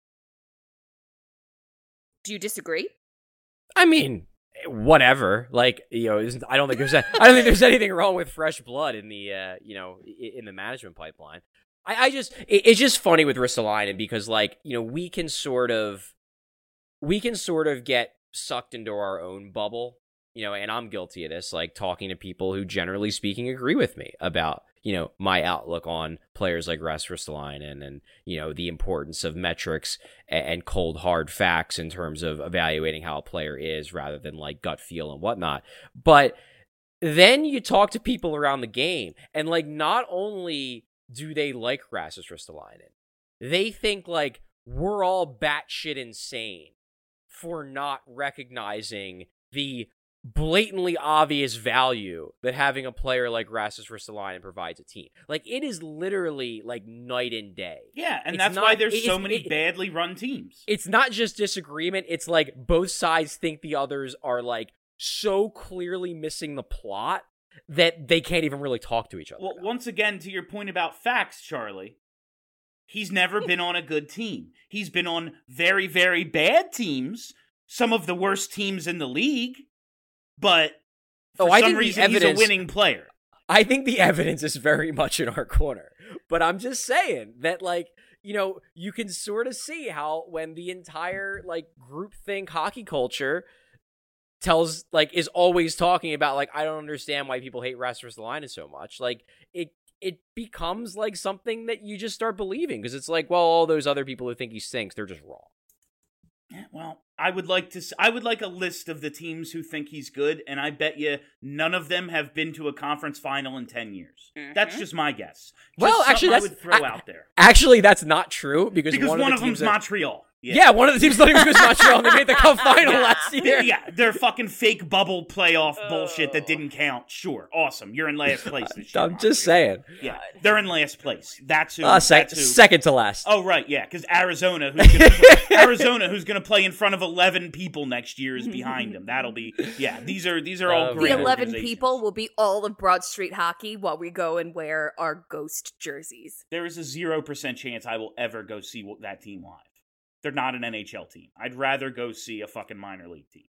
Do you disagree? I mean, whatever. Like, you know, I don't think there's anything wrong with fresh blood in the you know, in the management pipeline. It's just funny with Ristolainen because, like, you know, we can sort of get sucked into our own bubble. You know, and I'm guilty of this, like, talking to people who, generally speaking, agree with me about, you know, my outlook on players like Rasmus Ristolainen and, you know, the importance of metrics and cold, hard facts in terms of evaluating how a player is rather than, like, gut feel and whatnot. But then you talk to people around the game, and, like, not only do they like Rasmus Ristolainen, they think, like, we're all batshit insane for not recognizing the blatantly obvious value that having a player like Rasmus Ristolainen provides a team. Like, it is literally, like, night and day. Yeah, and that's why there's so many badly run teams. It's not just disagreement, it's like both sides think the others are, like, so clearly missing the plot that they can't even really talk to each other. Well, once again, to your point about facts, Charlie, he's never been on a good team. He's been on very, very bad teams, some of the worst teams in the league. But for some reason, he's a winning player. I think the evidence is very much in our corner. But I'm just saying that, like, you know, you can sort of see how when the entire, like, groupthink hockey culture is always talking about, like, I don't understand why people hate Rasmus Ristolainen so much. Like, it becomes, like, something that you just start believing. Because it's like, well, all those other people who think he stinks, they're just wrong. Yeah, well, I would like a list of the teams who think he's good, and I bet you none of them have been to a conference final in 10 years. That's just my guess. Well, actually, I would throw out there. Actually, that's not true because one of of them's Montreal. Yeah, one of the teams not even goes to Montreal, and they made the cup final last year. Yeah, they're fucking fake bubble playoff bullshit that didn't count. Sure, awesome. You're in last place this year. I'm just saying. Yeah, they're in last place. That's who. That's who. Second to last. Oh right, yeah, because Arizona, who's going to play in front of 11 people next year, is behind them. That'll be These are all great. The 11 people will be all of Broad Street Hockey while we go and wear our ghost jerseys. There is a 0% chance I will ever go see that team live. They're not an NHL team. I'd rather go see a fucking minor league team.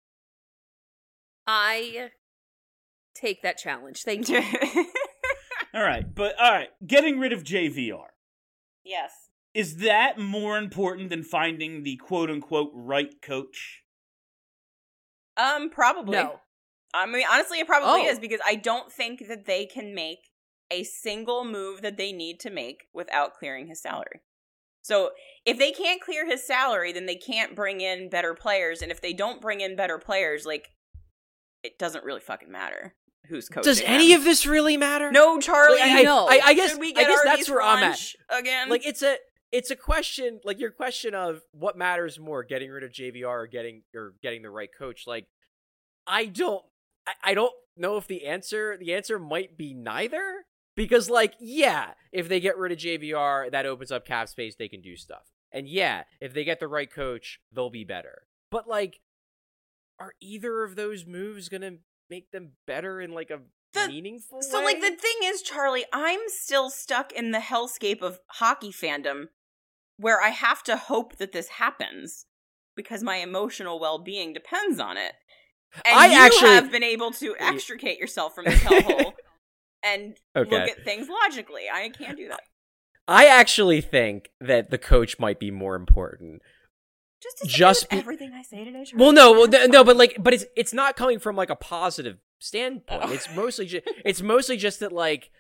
I take that challenge. Thank you. All right. Getting rid of JVR. Yes. Is that more important than finding the quote-unquote right coach? Probably. No. I mean, honestly, it probably is, because I don't think that they can make a single move that they need to make without clearing his salary. So if they can't clear his salary, then they can't bring in better players. And if they don't bring in better players, like, it doesn't really fucking matter who's coaching. Does any of this really matter? No, Charlie. I guess Should we get that's where I'm at again. Like, it's a question, like your question of what matters more, getting rid of JVR or getting the right coach. Like, I don't know if the answer might be neither. Because, like, yeah, if they get rid of JVR, that opens up cap space, they can do stuff. And yeah, if they get the right coach, they'll be better. But, like, are either of those moves going to make them better in, like, a meaningful way? So, like, the thing is, Charlie, I'm still stuck in the hellscape of hockey fandom where I have to hope that this happens because my emotional well-being depends on it. And you have been able to extricate yourself from this hellhole. And look at things logically. I can't do that. I actually think that the coach might be more important. Just everything I say today. Well, no, but it's not coming from like a positive standpoint. Oh. It's mostly just that like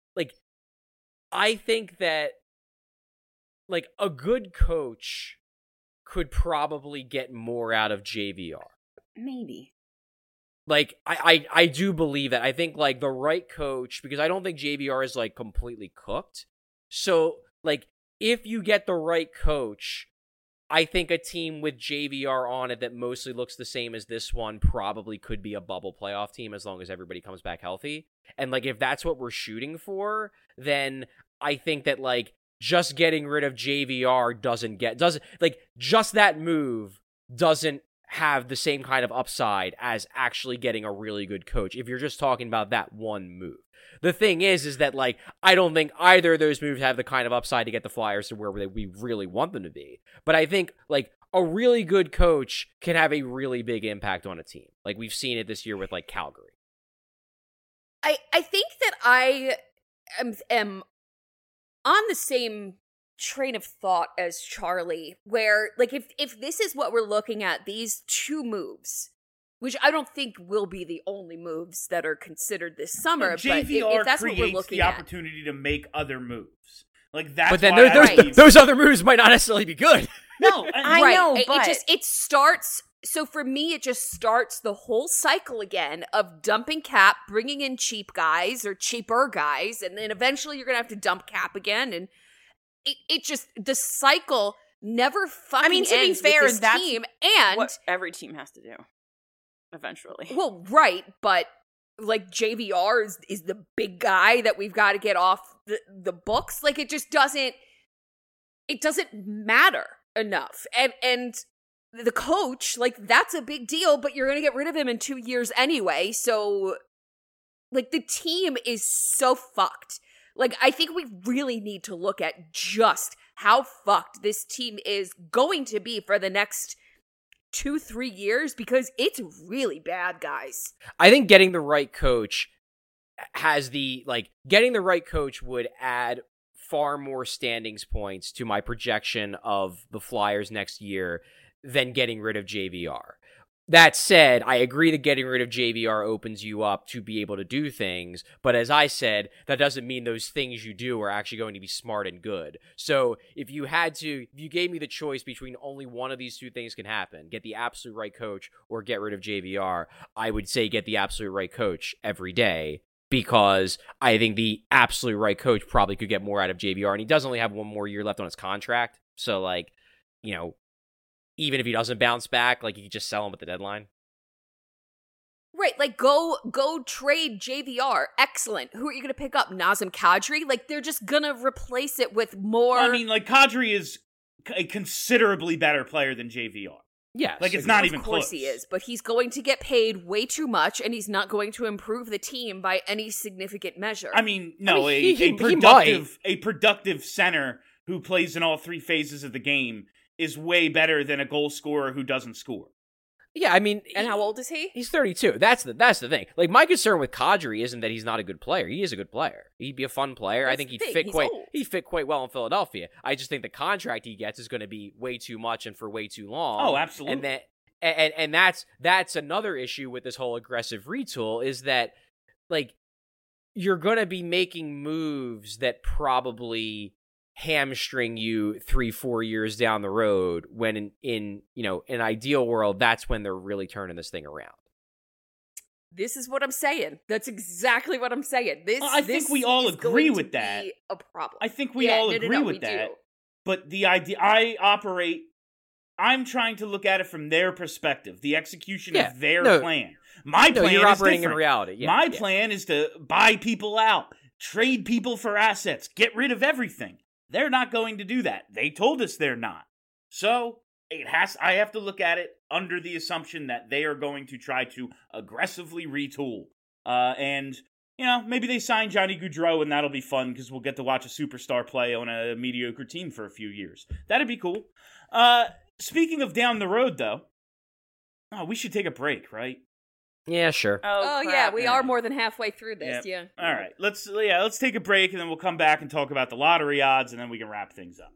I think that like a good coach could probably get more out of JVR. Maybe. Like, I do believe that. I think, like, the right coach, because I don't think JVR is, like, completely cooked. So, like, if you get the right coach, I think a team with JVR on it that mostly looks the same as this one probably could be a bubble playoff team as long as everybody comes back healthy. And, like, if that's what we're shooting for, then I think that, like, just getting rid of JVR just that move doesn't have the same kind of upside as actually getting a really good coach if you're just talking about that one move. The thing is that, like, I don't think either of those moves have the kind of upside to get the Flyers to where we really want them to be. But I think, like, a really good coach can have a really big impact on a team. Like, we've seen it this year with, like, Calgary. I think that I am on the same train of thought as Charlie, where, like, if this is what we're looking at, these two moves, which I don't think will be the only moves that are considered this summer, but if that's what we're looking the at, opportunity to make other moves. Like, that's but then those other moves might not necessarily be good. No, I know, but it starts. So for me, it just starts the whole cycle again of dumping cap, bringing in cheap guys or cheaper guys, and then eventually you're gonna have to dump cap again, and it just, the cycle never fucking ends. To be fair, with this team, and what every team has to do eventually. Well, right, but like JVR is the big guy that we've got to get off the books. Like, it just doesn't matter enough, and the coach, like, that's a big deal, but you're gonna get rid of him in 2 years anyway. So, like, the team is so fucked. Like, I think we really need to look at just how fucked this team is going to be for the next 2-3 years, because it's really bad, guys. I think getting the right coach would add far more standings points to my projection of the Flyers next year than getting rid of JVR. That said, I agree that getting rid of JVR opens you up to be able to do things, but as I said, that doesn't mean those things you do are actually going to be smart and good. So if you gave me the choice between only one of these two things can happen, get the absolute right coach or get rid of JVR, I would say get the absolute right coach every day, because I think the absolute right coach probably could get more out of JVR, and he does only have one more year left on his contract, so like, you know, even if he doesn't bounce back, like, you could just sell him at the deadline. Right, like, go trade JVR. Excellent. Who are you going to pick up? Nazem Kadri? Like, they're just going to replace it with more... I mean, like, Kadri is a considerably better player than JVR. Yeah. Like, it's not even close. Of course close. he is, but he's going to get paid way too much, and he's not going to improve the team by any significant measure. I mean, no, he a productive center who plays in all three phases of the game is way better than a goal scorer who doesn't score. Yeah, I mean... And how old is he? He's 32. That's the thing. Like, my concern with Kadri isn't that he's not a good player. He is a good player. He'd be a fun player. I think he'd fit quite well in Philadelphia. I just think the contract he gets is going to be way too much and for way too long. Oh, absolutely. And that's another issue with this whole aggressive retool, is that, like, you're going to be making moves that probably hamstring you 3-4 years down the road, when in an ideal world, that's when they're really turning this thing around. This is what I'm saying. That's exactly what I'm saying. I think we all agree with that. A problem. I think we all agree with that. Do. But the idea, I'm trying to look at it from their perspective, the execution of their plan. My plan you're is operating different. in reality. Yeah, My plan is to buy people out, trade people for assets, get rid of everything. They're not going to do that. They told us they're not. So I have to look at it under the assumption that they are going to try to aggressively retool. And, maybe they sign Johnny Gaudreau, and that'll be fun because we'll get to watch a superstar play on a mediocre team for a few years. That'd be cool. Speaking of down the road, though, we should take a break, right? Yeah, sure. Oh yeah, we are more than halfway through this. Yeah. All right, let's take a break, and then we'll come back and talk about the lottery odds, and then we can wrap things up.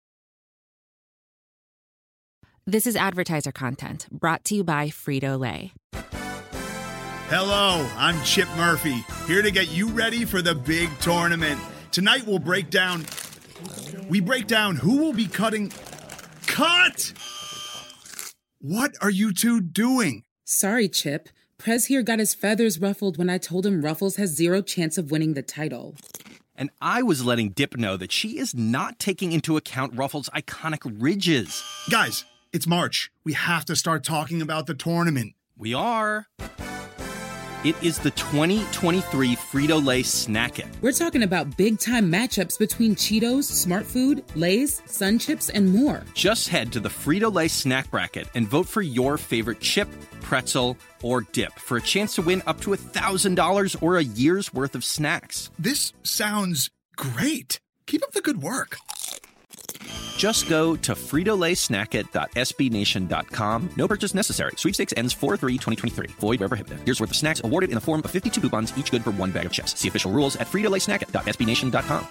This is advertiser content brought to you by Frito-Lay. Hello, I'm Chip Murphy, here to get you ready for the big tournament. Tonight we'll break down who will be cutting... Cut! What are you two doing? Sorry, Chip. Prez here got his feathers ruffled when I told him Ruffles has zero chance of winning the title. And I was letting Dip know that she is not taking into account Ruffles' iconic ridges. Guys, it's March. We have to start talking about the tournament. We are. It is the 2023 Frito-Lay Snack It. We're talking about big-time matchups between Cheetos, Smart Food, Lay's, Sun Chips, and more. Just head to the Frito-Lay Snack Bracket and vote for your favorite chip, pretzel, or dip for a chance to win up to $1,000 or a year's worth of snacks. This sounds great. Keep up the good work. Just go to fritolaysnackit.sbnation.com. No purchase necessary. Sweepstakes ends 4/3/2023. Void where prohibited. Year's worth of snacks awarded in the form of 52 coupons, each good for one bag of chips. See official rules at fritolaysnackit.sbnation.com.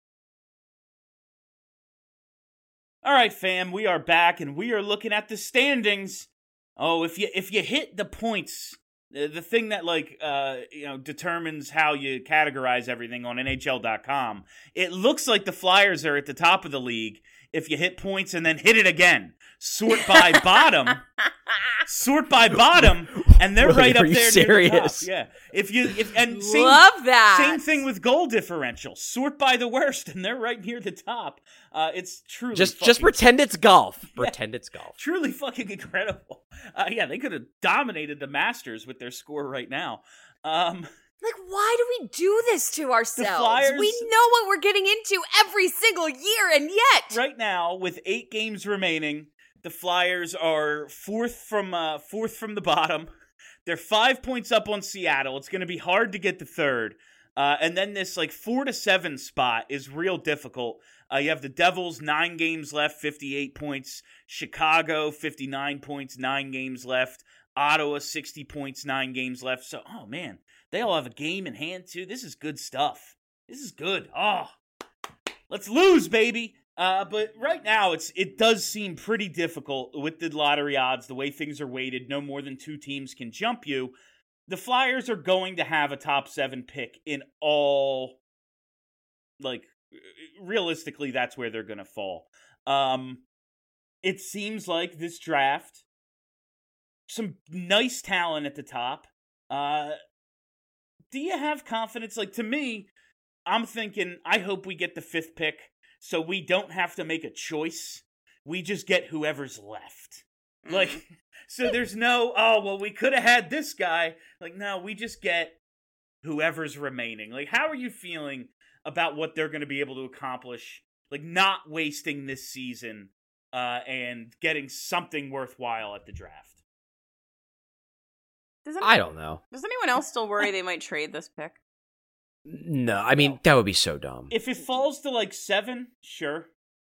All right, fam, we are back, and we are looking at the standings. Oh, if you hit the points, the thing that determines how you categorize everything on NHL.com, it looks like the Flyers are at the top of the league if you hit points and then hit it again. Sort by bottom, and they're right up there serious? near the top. Yeah. Love that. Same thing with goal differential. Sort by the worst, and they're right near the top. It's truly just pretend it's golf. Pretend it's golf. Truly fucking incredible. They could have dominated the Masters with their score right now. Why do we do this to ourselves? Flyers, we know what we're getting into every single year, and yet... Right now, with 8 games remaining, the Flyers are fourth from the bottom. They're 5 points up on Seattle. It's going to be hard to get to third. And then this 4 to 7 spot is real difficult. You have the Devils, 9 games left, 58 points. Chicago, 59 points, 9 games left. Ottawa, 60 points, 9 games left. So, oh man, they all have a game in hand too. This is good stuff. This is good. Oh, let's lose, baby. But right now, it does seem pretty difficult with the lottery odds, the way things are weighted. No more than 2 teams can jump you. The Flyers are going to have a top 7 pick in all, like, realistically, that's where they're going to fall. It seems like this draft, some nice talent at the top. Do you have confidence? Like, to me, I'm thinking, I hope we get the 5th pick so we don't have to make a choice. We just get whoever's left. Like, so there's no, oh, well, we could have had this guy. Like, no, we just get whoever's remaining. Like, how are you feeling about what they're going to be able to accomplish? Like, not wasting this season and getting something worthwhile at the draft. I don't know. Does anyone else still worry they might trade this pick? No, I mean, that would be so dumb. If it falls to, like, 7, sure.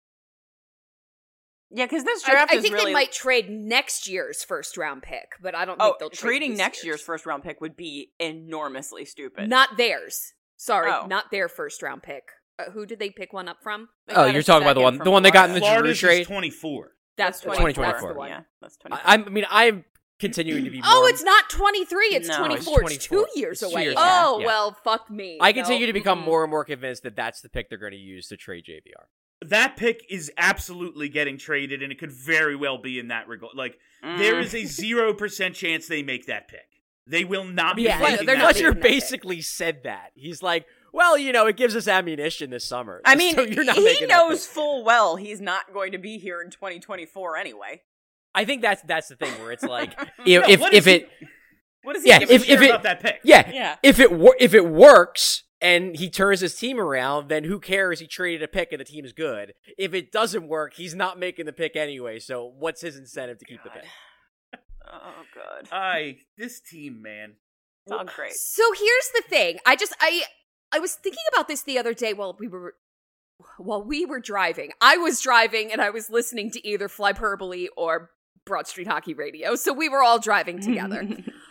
Yeah, because this draft I is think really... they might trade next year's first-round pick, but I don't think they'll trade trading this next year's first-round pick would be enormously stupid. Not theirs. Sorry, Oh. not their first-round pick. Who did they pick one up from? They Oh, got you're a talking about second the one they got in the Giroux Florida's trade? is 24. That's the one. 2024. That's the one. Yeah, that's 24. I mean, I'm continuing to be more... Oh, it's not 23, it's No, 24. it's It's 24. 2 years It's 2 away. years Oh, away. Yeah. well, fuck me. I continue to become Mm-mm. more and more convinced that that's the pick they're going to use to trade JVR. That pick is absolutely getting traded, and it could very well be in that regard. Like, there is a 0% chance they make that pick. They will not be Yeah, making they're that not pick. Fletcher making that pick. basically said that. He's like, well, you know, it gives us ammunition this summer. I mean, so you're not he making that knows pick. full well he's not going to be here in 2024 anyway. I think that's the thing where it's like, No, if what is it... What does he Yeah, give if a shit it- about that pick. Yeah, if it works and he turns his team around, then who cares? He traded a pick and the team's good. If it doesn't work, he's not making the pick anyway. So what's his incentive to keep the pick? Oh, God. This team, man. It's all great. So here's the thing. I was thinking about this the other day while we were driving. I was driving and I was listening to either Flyperbole or Broad Street Hockey Radio. So we were all driving together.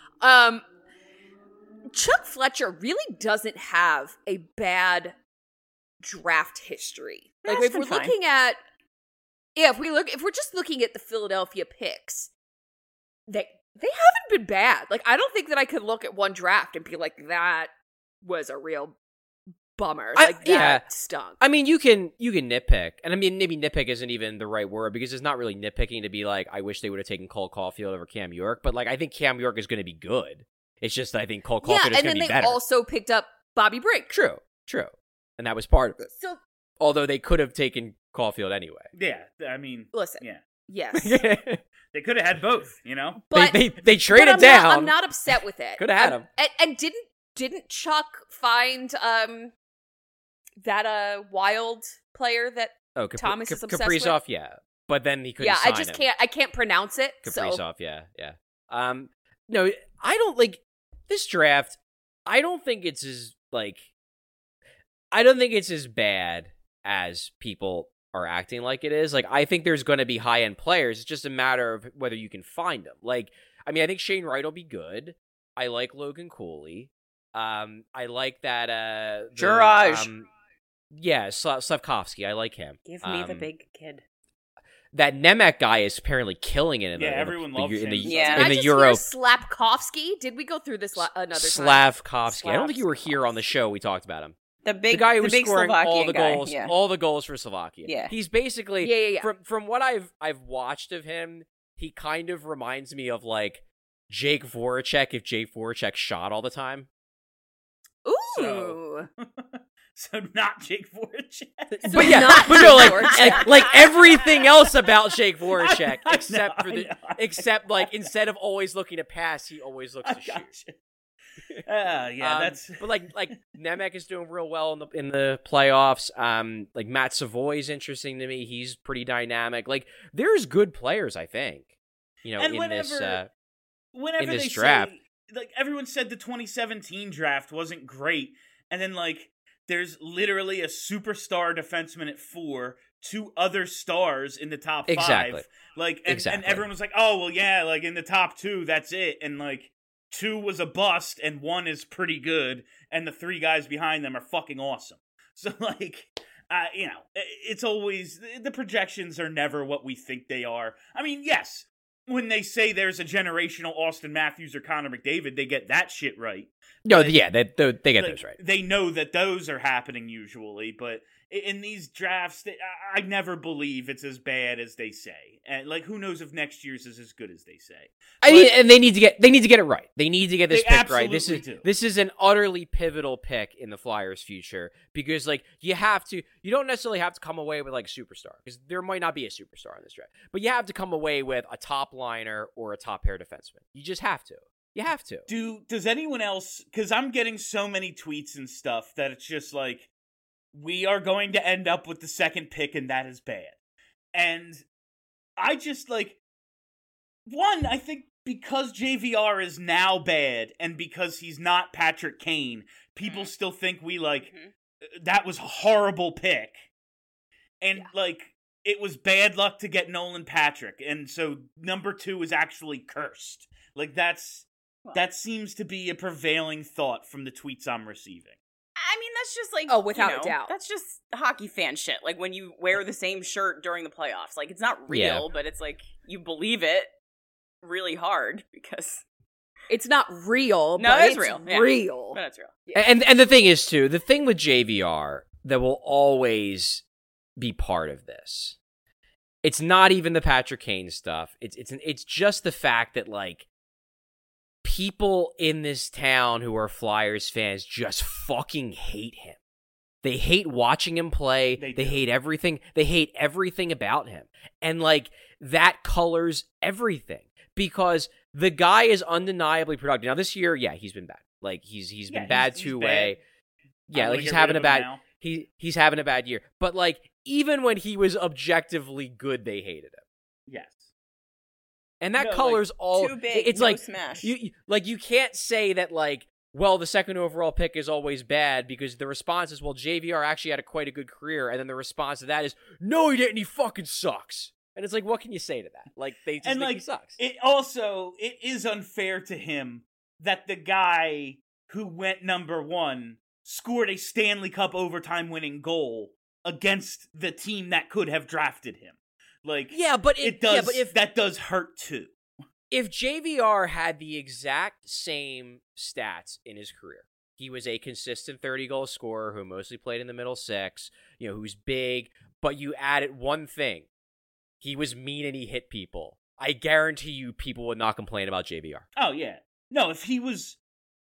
Chuck Fletcher really doesn't have a bad draft history. Like That's if we're been fine. looking at if we're just looking at the Philadelphia picks, they haven't been bad. Like I don't think that I could look at one draft and be like that was a real bummer. Like that stunk. I mean, you can nitpick, and I mean maybe nitpick isn't even the right word because it's not really nitpicking to be like I wish they would have taken Cole Caulfield over Cam York, but like I think Cam York is going to be good. It's just that I think Cole Caulfield is and going then to be they better. also picked up Bobby Brink. True, and that was part of it. So Although they could have taken Caulfield anyway. Yeah, I mean, listen, yeah, yes, they could have had both. You know, but they traded but down. I'm not upset with it. Could have had him. And didn't Chuck find that wild player that Thomas is obsessed with? Kaprizov, yeah, but then he couldn't. Yeah, sign I just him. can't. I can't pronounce it. Kaprizov, So yeah. No, I don't like this draft. I don't think it's as bad as people are acting like it is. Like, I think there's going to be high end players. It's just a matter of whether you can find them. Like, I mean, I think Shane Wright will be good. I like Logan Cooley. I like that. Juraj. Yeah, Slavkovsky. I like him. Give me the big kid. That Nemec guy is apparently killing it. Everyone loves him. in the Did I Euro. just hear Slapkovsky? Did we go through this another time? Slavkovsky. I don't think you were here on the show. We talked about him. The guy who was big scoring all the Slovakian goals, guy, yeah. all the goals for Slovakia. Yeah. He's basically Yeah. From what I've watched of him, he kind of reminds me of like Jake Voracek if Jake Voracek shot all the time. Ooh. So not Jake Voracek. But yeah, not but no, Jake Voracek. like everything else about Jake Voracek, I know. except like instead of always looking to pass, he always looks to shoot. That's. But like Nemec is doing real well in the playoffs. Like Matt Savoy is interesting to me. He's pretty dynamic. Like there's good players, I think. You know, And in whenever this they draft. say, like everyone said the 2017 draft wasn't great, and then like there's literally a superstar defenseman at 4, 2 other stars in the top 5. Exactly. Like and everyone was like, oh well, yeah, like in the top 2, that's it, and like 2 was a bust and 1 is pretty good, and the 3 guys behind them are fucking awesome. So like, it's always, the projections are never what we think they are. I mean, yes, when they say there's a generational Austin Matthews or Connor McDavid, they get that shit right. No, yeah, they get those right. They know that those are happening usually, but in these drafts, I never believe it's as bad as they say. And like, who knows if next year's is as good as they say? I mean, and they need to get it right. They need to get this pick right. This is an utterly pivotal pick in the Flyers' future because, like, you don't necessarily have to come away with like superstar because there might not be a superstar in this draft, but you have to come away with a top liner or a top pair defenseman. You just have to. You have to. Does anyone else? Because I'm getting so many tweets and stuff that it's just like, we are going to end up with the second pick, and that is bad. And I just, like, one, I think because JVR is now bad, and because he's not Patrick Kane, people still think we, like, that was a horrible pick. And, like, it was bad luck to get Nolan Patrick, and so number 2 is actually cursed. Like, that seems to be a prevailing thought from the tweets I'm receiving. I mean, that's just like, without a doubt. That's just hockey fan shit. Like when you wear the same shirt during the playoffs. Like, it's not real, but it's like you believe it really hard because it's not real. No, but it's real. Real. But it's real. Yeah. And the thing is too, the thing with JVR that will always be part of this, it's not even the Patrick Kane stuff. It's just the fact that, like, people in this town who are Flyers fans just fucking hate him. They hate watching him play. They hate everything. They hate everything about him. And, like, that colors everything because the guy is undeniably productive. Now, this year, yeah, he's been bad. Like, he's been bad two-way. Yeah, like, he's having a bad he's having a bad year. But, like, even when he was objectively good, they hated him. Yes. And that colors all. Too big, it's no like smash. You can't say that, like, well, the second overall pick is always bad because the response is, well, JVR actually had quite a good career, and then the response to that is, no, he didn't. He fucking sucks. And it's like, what can you say to that? Like, they just think he sucks. It is unfair to him that the guy who went number 1 scored a Stanley Cup overtime winning goal against the team that could have drafted him. Like, that does hurt too. If JVR had the exact same stats in his career, he was a consistent 30-goal scorer who mostly played in the middle six, who's big, but you added one thing. He was mean and he hit people. I guarantee you people would not complain about JVR. Oh, yeah. No, if he was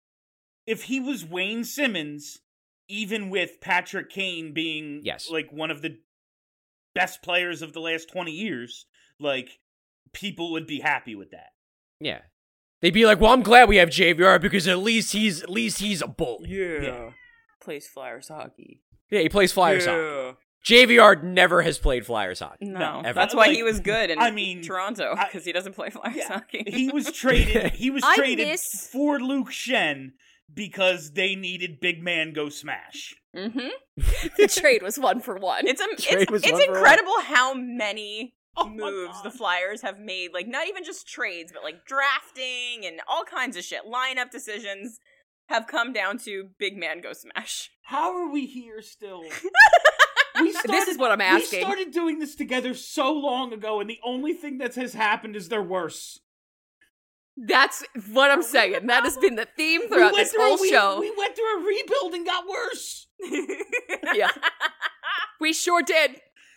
Wayne Simmons, even with Patrick Kane being like one of the best players of the last 20 years, like, people would be happy with that. Yeah. They'd be like, well, I'm glad we have JVR because at least he's a bully. Yeah. Plays Flyers hockey. Yeah, he plays Flyers hockey. JVR never has played Flyers hockey. No. Ever. That's why he was good in Toronto, because he doesn't play Flyers hockey. He was traded for Luke Shen because they needed big man go smash. Mm-hmm. The trade was 1-for-1. It's incredible how many moves the Flyers have made. Like, not even just trades, but like drafting and all kinds of shit. Lineup decisions have come down to big man go smash. How are we here still? This is what I'm asking. We started doing this together so long ago, and the only thing that has happened is they're worse. That's what I'm saying. That has been the theme throughout this whole show. We went through a rebuild and got worse. Yeah. We sure did.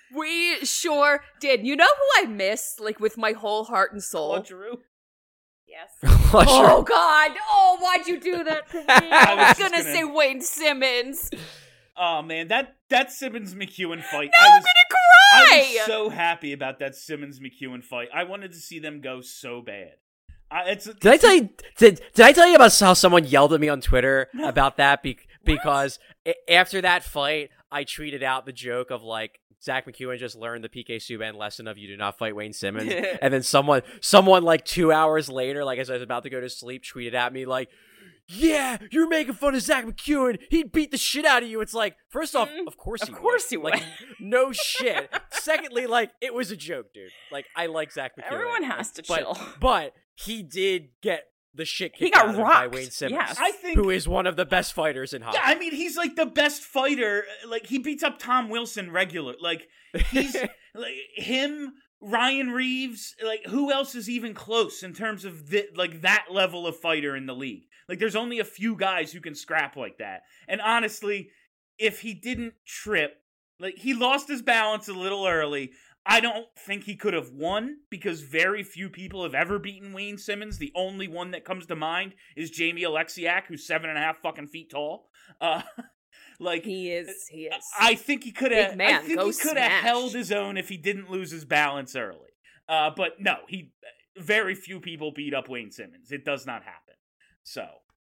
You know who I miss, like, with my whole heart and soul? Claude Giroux. Yes. Oh, God. Oh, why'd you do that to me? I was gonna say Wayne Simmons. Oh, man, that Simmons-McEwen fight. No, I'm gonna cry! I was so happy about that Simmons-McEwen fight. I wanted to see them go so bad. Did I tell you about how someone yelled at me on Twitter about that? Because after that fight, I tweeted out the joke of, like, Zach McEwen just learned the PK Subban lesson of you do not fight Wayne Simmons. And then someone like 2 hours later, like as I was about to go to sleep, tweeted at me like, yeah, you're making fun of Zach McEwen. He'd beat the shit out of you. It's like, first off, of course he would. Like, no shit. Secondly, like, it was a joke, dude. Like, I like Zach McEwen. Everyone has to chill. But he did get the shit He kicked got out of him by rocked. Wayne Simmons, Yes. I think who is one of the best fighters in hockey. Yeah, I mean, he's like the best fighter. Like, he beats up Tom Wilson regular. Like, he's like him, Ryan Reeves. Like, who else is even close in terms of that level of fighter in the league? Like, there's only a few guys who can scrap like that. And honestly, if he didn't trip, like, he lost his balance a little early. I don't think he could have won because very few people have ever beaten Wayne Simmons. The only one that comes to mind is Jamie Alexiak, who's 7.5 fucking feet tall. Like, He is. I think he could have. Big man, I think go he could have smash. held his own if he didn't lose his balance early. But no, very few people beat up Wayne Simmons. It does not happen. So,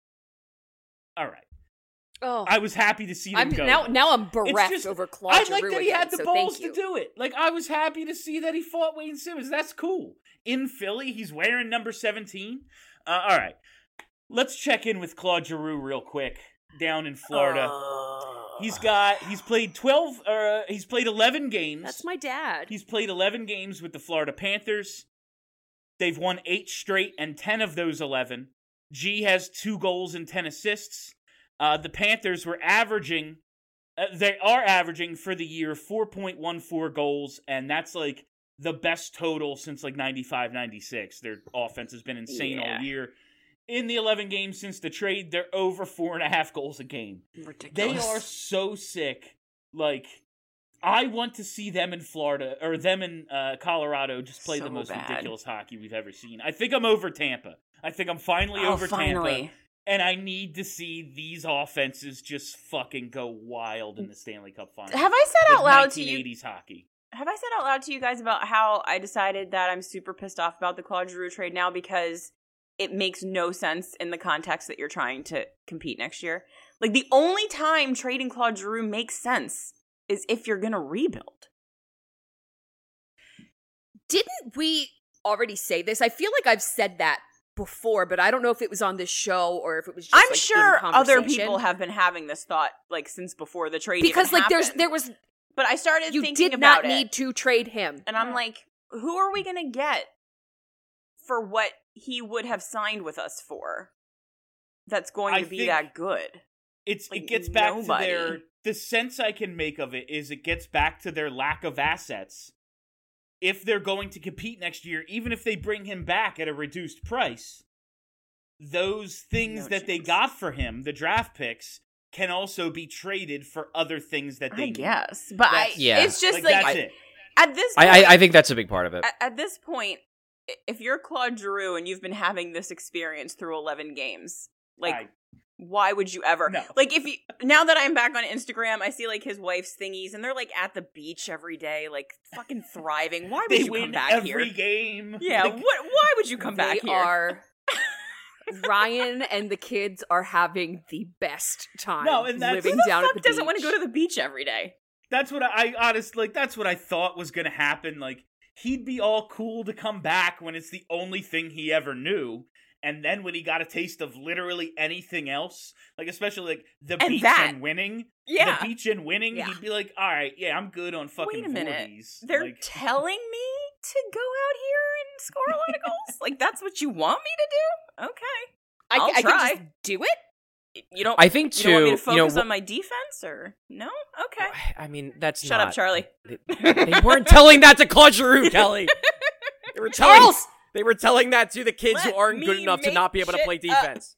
all right. Oh, I was happy to see them go. Now I'm bereft just- over Claude I like Giroux that he had again, the so balls thank to you. do it. Like, I was happy to see that he fought Wayne Simmons. That's cool. In Philly, he's wearing number 17. All right. Let's check in with Claude Giroux real quick down in Florida. He's played 11 games. That's my dad. He's played 11 games with the Florida Panthers. They've won 8 straight, and 10 of those 11. G has 2 goals and 10 assists. The Panthers were averaging for the year 4.14 goals, and that's like the best total since like 95-96. Their offense has been insane all year. In the 11 games since the trade, they're over 4.5 goals a game. Ridiculous. They are so sick. Like, I want to see them in Florida, or them in Colorado, just play So the most bad. ridiculous hockey we've ever seen. I think I'm over Tampa. I think I'm finally over Tampa. And I need to see these offenses just fucking go wild in the Stanley Cup Final. Have I said out loud to you? 1980s hockey. Have I said out loud to you guys about how I decided that I'm super pissed off about the Claude Giroux trade now because it makes no sense in the context that you're trying to compete next year? Like, the only time trading Claude Giroux makes sense is if you're going to rebuild. Didn't we already say this? I feel like I've said that before, but I don't know if it was on this show or if it was just I'm like, sure in other conversation. people have been having this thought like since before the trade because even like happened. there was But I started you thinking did about not it. need to trade him. And I'm like, who are we going to get for what he would have signed with us for that's going to be that good? It Like, gets back nobody. to the sense I can make of it is it gets back to their lack of assets. If they're going to compete next year, even if they bring him back at a reduced price, those things that they got for him, the draft picks, can also be traded for other things that they need. Guess. But it's just like that's it. At this point, I think that's a big part of it. At this point, if you're Claude Giroux and you've been having this experience through 11 games, like, why would you ever? No. Like, if you now that I'm back on Instagram, I see like his wife's thingies, and they're like at the beach every day, like fucking thriving. Why would They you win come back every here? game. Yeah, Like, why would you come back They here? are Ryan and the kids are having the best time. No, and that's- living Who the down fuck at the doesn't beach. want to go to the beach every day? That's what I honestly, like, that's what I thought was going to happen. Like, he'd be all cool to come back when it's the only thing he ever knew. And then when he got a taste of literally anything else, like, especially like the And beach that. and winning, Yeah. the beach and winning, Yeah. he'd be like, all right, yeah, I'm good on fucking Wait a minute. 40s. They're Like, telling me to go out here and score a lot of goals? Like, that's what you want me to do? Okay. I'll I try. can just do it. You don't. I think You don't want me to too, focus you know, on my defense, or no? Okay. I mean, that's Shut up, not- Charlie. They weren't telling that to Claude Giroux, Kelly. They were telling. They were telling that to the kids who Let aren't good me enough to make not be able to play shit up. defense.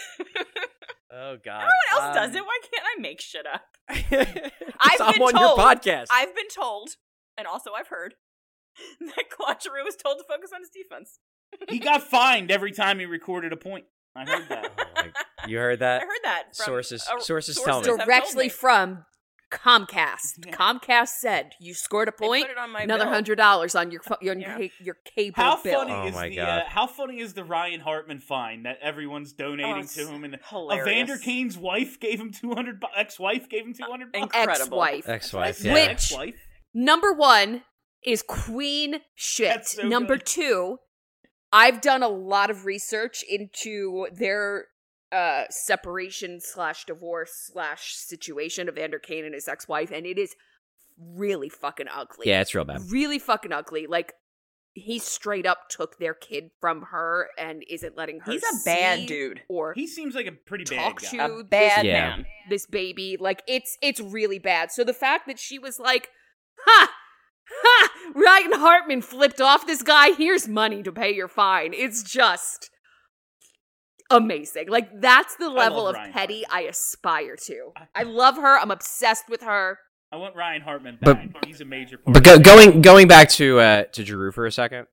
Oh God! Everyone else does it. Why can't I make shit up? I'm I've been on told, your podcast. I've been told, and also I've heard that Claude Giroux was told to focus on his defense. he got fined every time he recorded a point. I heard that. You heard that? I heard that from Sources tell me. have Directly from Comcast. Comcast said you scored a point. put it on my another bill. $100 on your cable How bill. funny Oh is my the God. how funny is the Ryan Hartman fine that everyone's donating it's to him, and hilarious. Evander Kane's wife gave him $200. Ex-wife gave him $200. Incredible. Ex-wife. Ex-wife, Yeah, Which ex-wife. number one is queen shit. That's so Number good. two, I've done a lot of research into their separation / divorce / situation of Evander Kane and his ex-wife, and it is really fucking ugly. Yeah, it's real bad. Really fucking ugly. Like, he straight up took their kid from her and isn't letting her He's a bad see dude. or He seems like a pretty bad talk guy. to A bad this, Yeah. man. this baby. Like, it's really bad. So the fact that she was like, ha! Ha! Ryan Hartman flipped off this guy. Here's money to pay your fine. It's just amazing. Like, that's the level love of Ryan petty Hartman. I aspire to. I love her. I'm obsessed with her. I want Ryan Hartman But- back. He's a major part. But going back to Giroux for a second,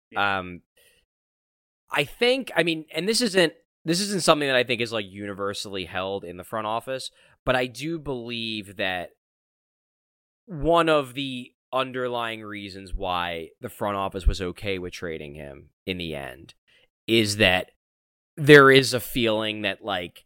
I think, I mean, and this isn't something that I think is like universally held in the front office, but I do believe that one of the underlying reasons why the front office was okay with trading him in the end is that there is a feeling that like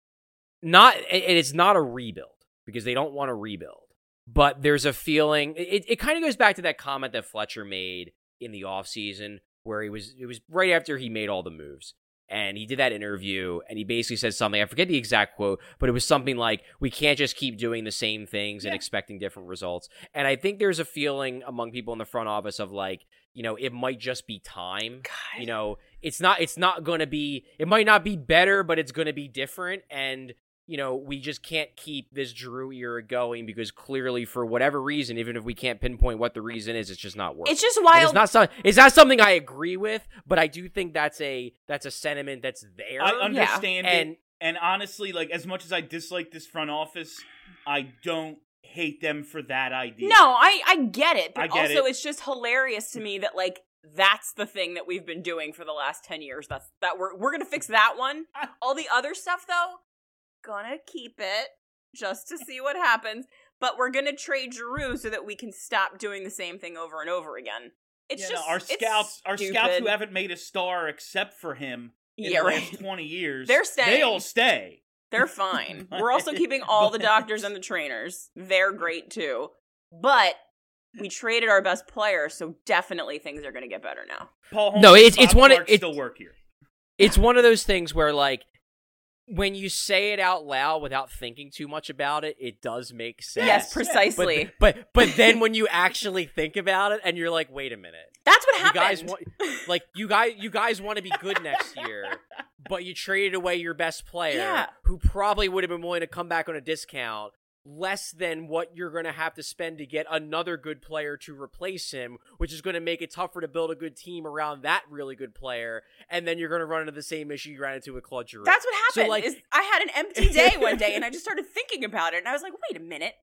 it's not a rebuild because they don't want to rebuild, but there's a feeling it kind of goes back to that comment that Fletcher made in the offseason where it was right after he made all the moves. And he did that interview, and he basically said something, I forget the exact quote, but it was something like, we can't just keep doing the same things and expecting different results. And I think there's a feeling among people in the front office of like, you know, it might just be time. God. You know, it's not going to be, it might not be better, but it's going to be different. And, you know, we just can't keep this Giroux era going because clearly for whatever reason, even if we can't pinpoint what the reason is, it's just not working. It's just And wild. it's not something I agree with, but I do think that's a sentiment that's there. I understand And- it. And honestly, like, as much as I dislike this front office, I don't hate them for that idea. No, I get it, but I get also it. it's just hilarious to me that like that's the thing that we've been doing for the last 10 years. That we're gonna fix that one. All the other stuff though, gonna keep it just to see what happens. But we're gonna trade Giroux so that we can stop doing the same thing over and over again. It's You know, just our it's scouts who stupid. haven't made a star except for him in Yeah, the right. last 20 years, They're staying. They all stay. They're fine. We're also keeping all the doctors and the trainers. They're great too. But we traded our best player, so definitely things are going to get better now. Paul Holmes No, and it's Bob one of- Clark it- still work here. It's one of those things where, like, when you say it out loud without thinking too much about it, it does make sense. Yes, precisely. But then when you actually think about it, and you're like, wait a minute, That's what you happened. guys want, like, you guys want to be good next year, but you traded away your best player, Yeah. who probably would have been willing to come back on a discount. Less than what you're going to have to spend to get another good player to replace him, which is going to make it tougher to build a good team around that really good player. And then you're going to run into the same issue you ran into with Claude Giroux. That's what happened. So, like, is I had an empty day one day, and I just started thinking about it, and I was like, wait a minute.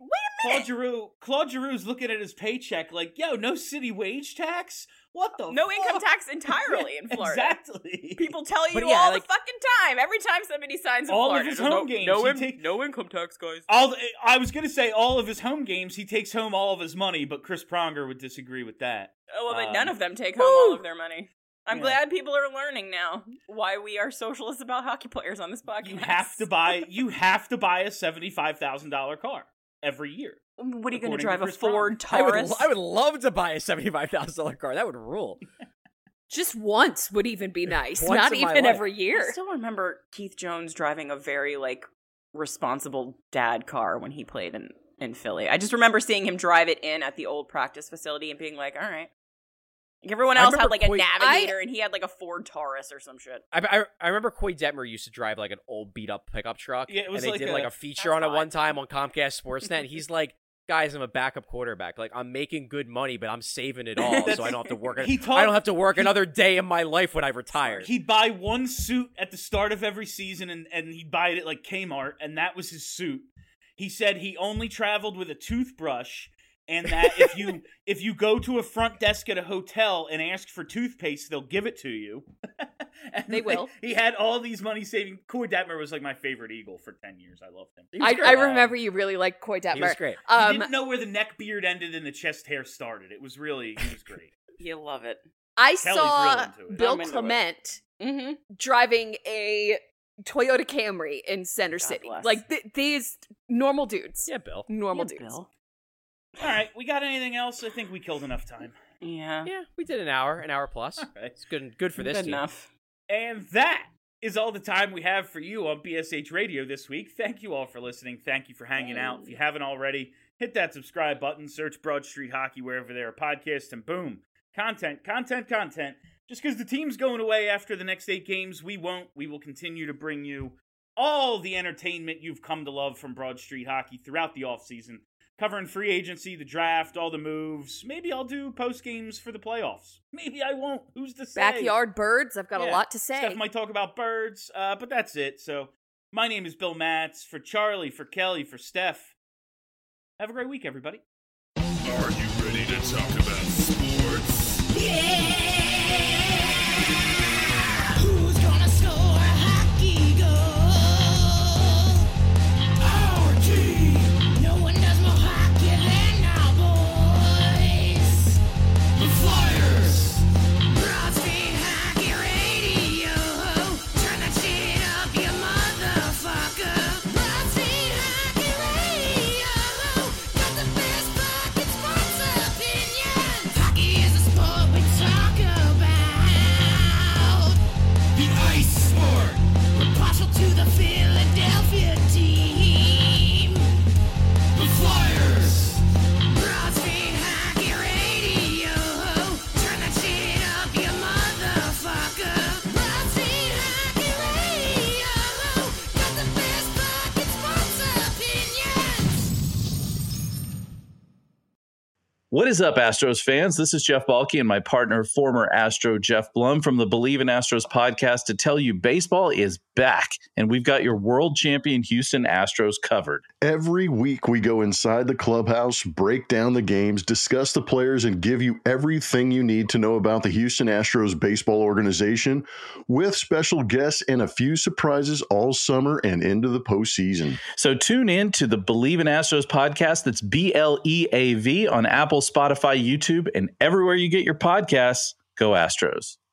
Claude Giroux's looking at his paycheck like, yo, no city wage tax? What the No fuck? income tax entirely in Florida. Exactly. People tell you But yeah, all like- the fucking time. Every time somebody signs in All of Florida. his there's home games, no income tax, guys. I was going to say all of his home games, he takes home all of his money, but Chris Pronger would disagree with that. Oh, well, but none of them take home all of their money. I'm Yeah. glad people are learning now why we are socialists about hockey players on this podcast. You have to buy a $75,000 car every year. What are you going according to to drive, a Chris Ford Pronger. Taurus? I would love to buy a $75,000 car. That would rule. Just once would even be nice. Once Not in my even life. every I year. still remember Keith Jones driving a very, like, responsible dad car when he played in Philly. I just remember seeing him drive it in at the old practice facility and being like, all right. Like, everyone I else had, remember like, a Coy- Navigator, and he had, like, a Ford Taurus or some shit. I remember Coy Detmer used to drive like an old beat up pickup truck. Yeah, it was and they like did a- like a feature That's on it fine. one time on Comcast Sportsnet. And he's like, guys, I'm a backup quarterback. Like, I'm making good money, but I'm saving it all, so I don't have to work. He told- I don't have to work another day in my life when I retire. He'd buy one suit at the start of every season, and he'd buy it at like Kmart, and that was his suit. He said he only traveled with a toothbrush, and that if you go to a front desk at a hotel and ask for toothpaste, they'll give it to you. And They will. He had all these money saving. Coy Detmer was like my favorite Eagle for 10 years. I loved him. He was I great. remember you really liked Coy Detmer. He was great. He didn't know where the neck beard ended and the chest hair started. He was great. You love it. I Kelly's saw real into it. Bill I'm into it. Clement Mm-hmm. driving a Toyota Camry in Center God City. bless. Like these normal dudes. Yeah, Bill. Normal dudes. Bill. All right, we got anything else? I think we killed enough time. Yeah. Yeah, we did an hour plus. All right. It's good for this Good team. enough. And that is all the time we have for you on BSH Radio this week. Thank you all for listening. Thank you for hanging out. If you haven't already, hit that subscribe button, search Broad Street Hockey wherever there are podcasts, and boom, Content. Just because the team's going away after the next 8 games, we won't. We will continue to bring you all the entertainment you've come to love from Broad Street Hockey throughout the offseason. Covering free agency, the draft, all the moves. Maybe I'll do post games for the playoffs. Maybe I won't. Who's to say? Backyard birds. I've got a lot to say. Steph might talk about birds, but that's it. So my name is Bill Matz. For Charlie, for Kelly, for Steph. Have a great week, everybody. Are you ready to talk about sports? Yeah! Who's gonna score a hockey goal? Our team! No one does more hockey than our boys! The Flyers! Broad Street Hockey Radio! Turn that shit up, you motherfucker! Broad Street Hockey Radio! Got the best fucking sports opinions! Hockey is a sport we talk about! The ice sport! We're partial to the Philadelphia team! The Flyers! Broad Street Hockey Radio! Turn that shit up, you motherfucker! Broad Street Hockey Radio! Got the best fucking sports opinions! What is up, Astros fans? This is Jeff Balke and my partner, former Astro Jeff Blum from the Believe in Astros podcast to tell you baseball is back, and we've got your world champion Houston Astros covered. Every week we go inside the clubhouse, break down the games, discuss the players, and give you everything you need to know about the Houston Astros baseball organization with special guests and a few surprises all summer and into the postseason. So tune in to the Believe in Astros podcast. That's BLEAV on Apple, Spotify, YouTube, and everywhere you get your podcasts. Go Astros.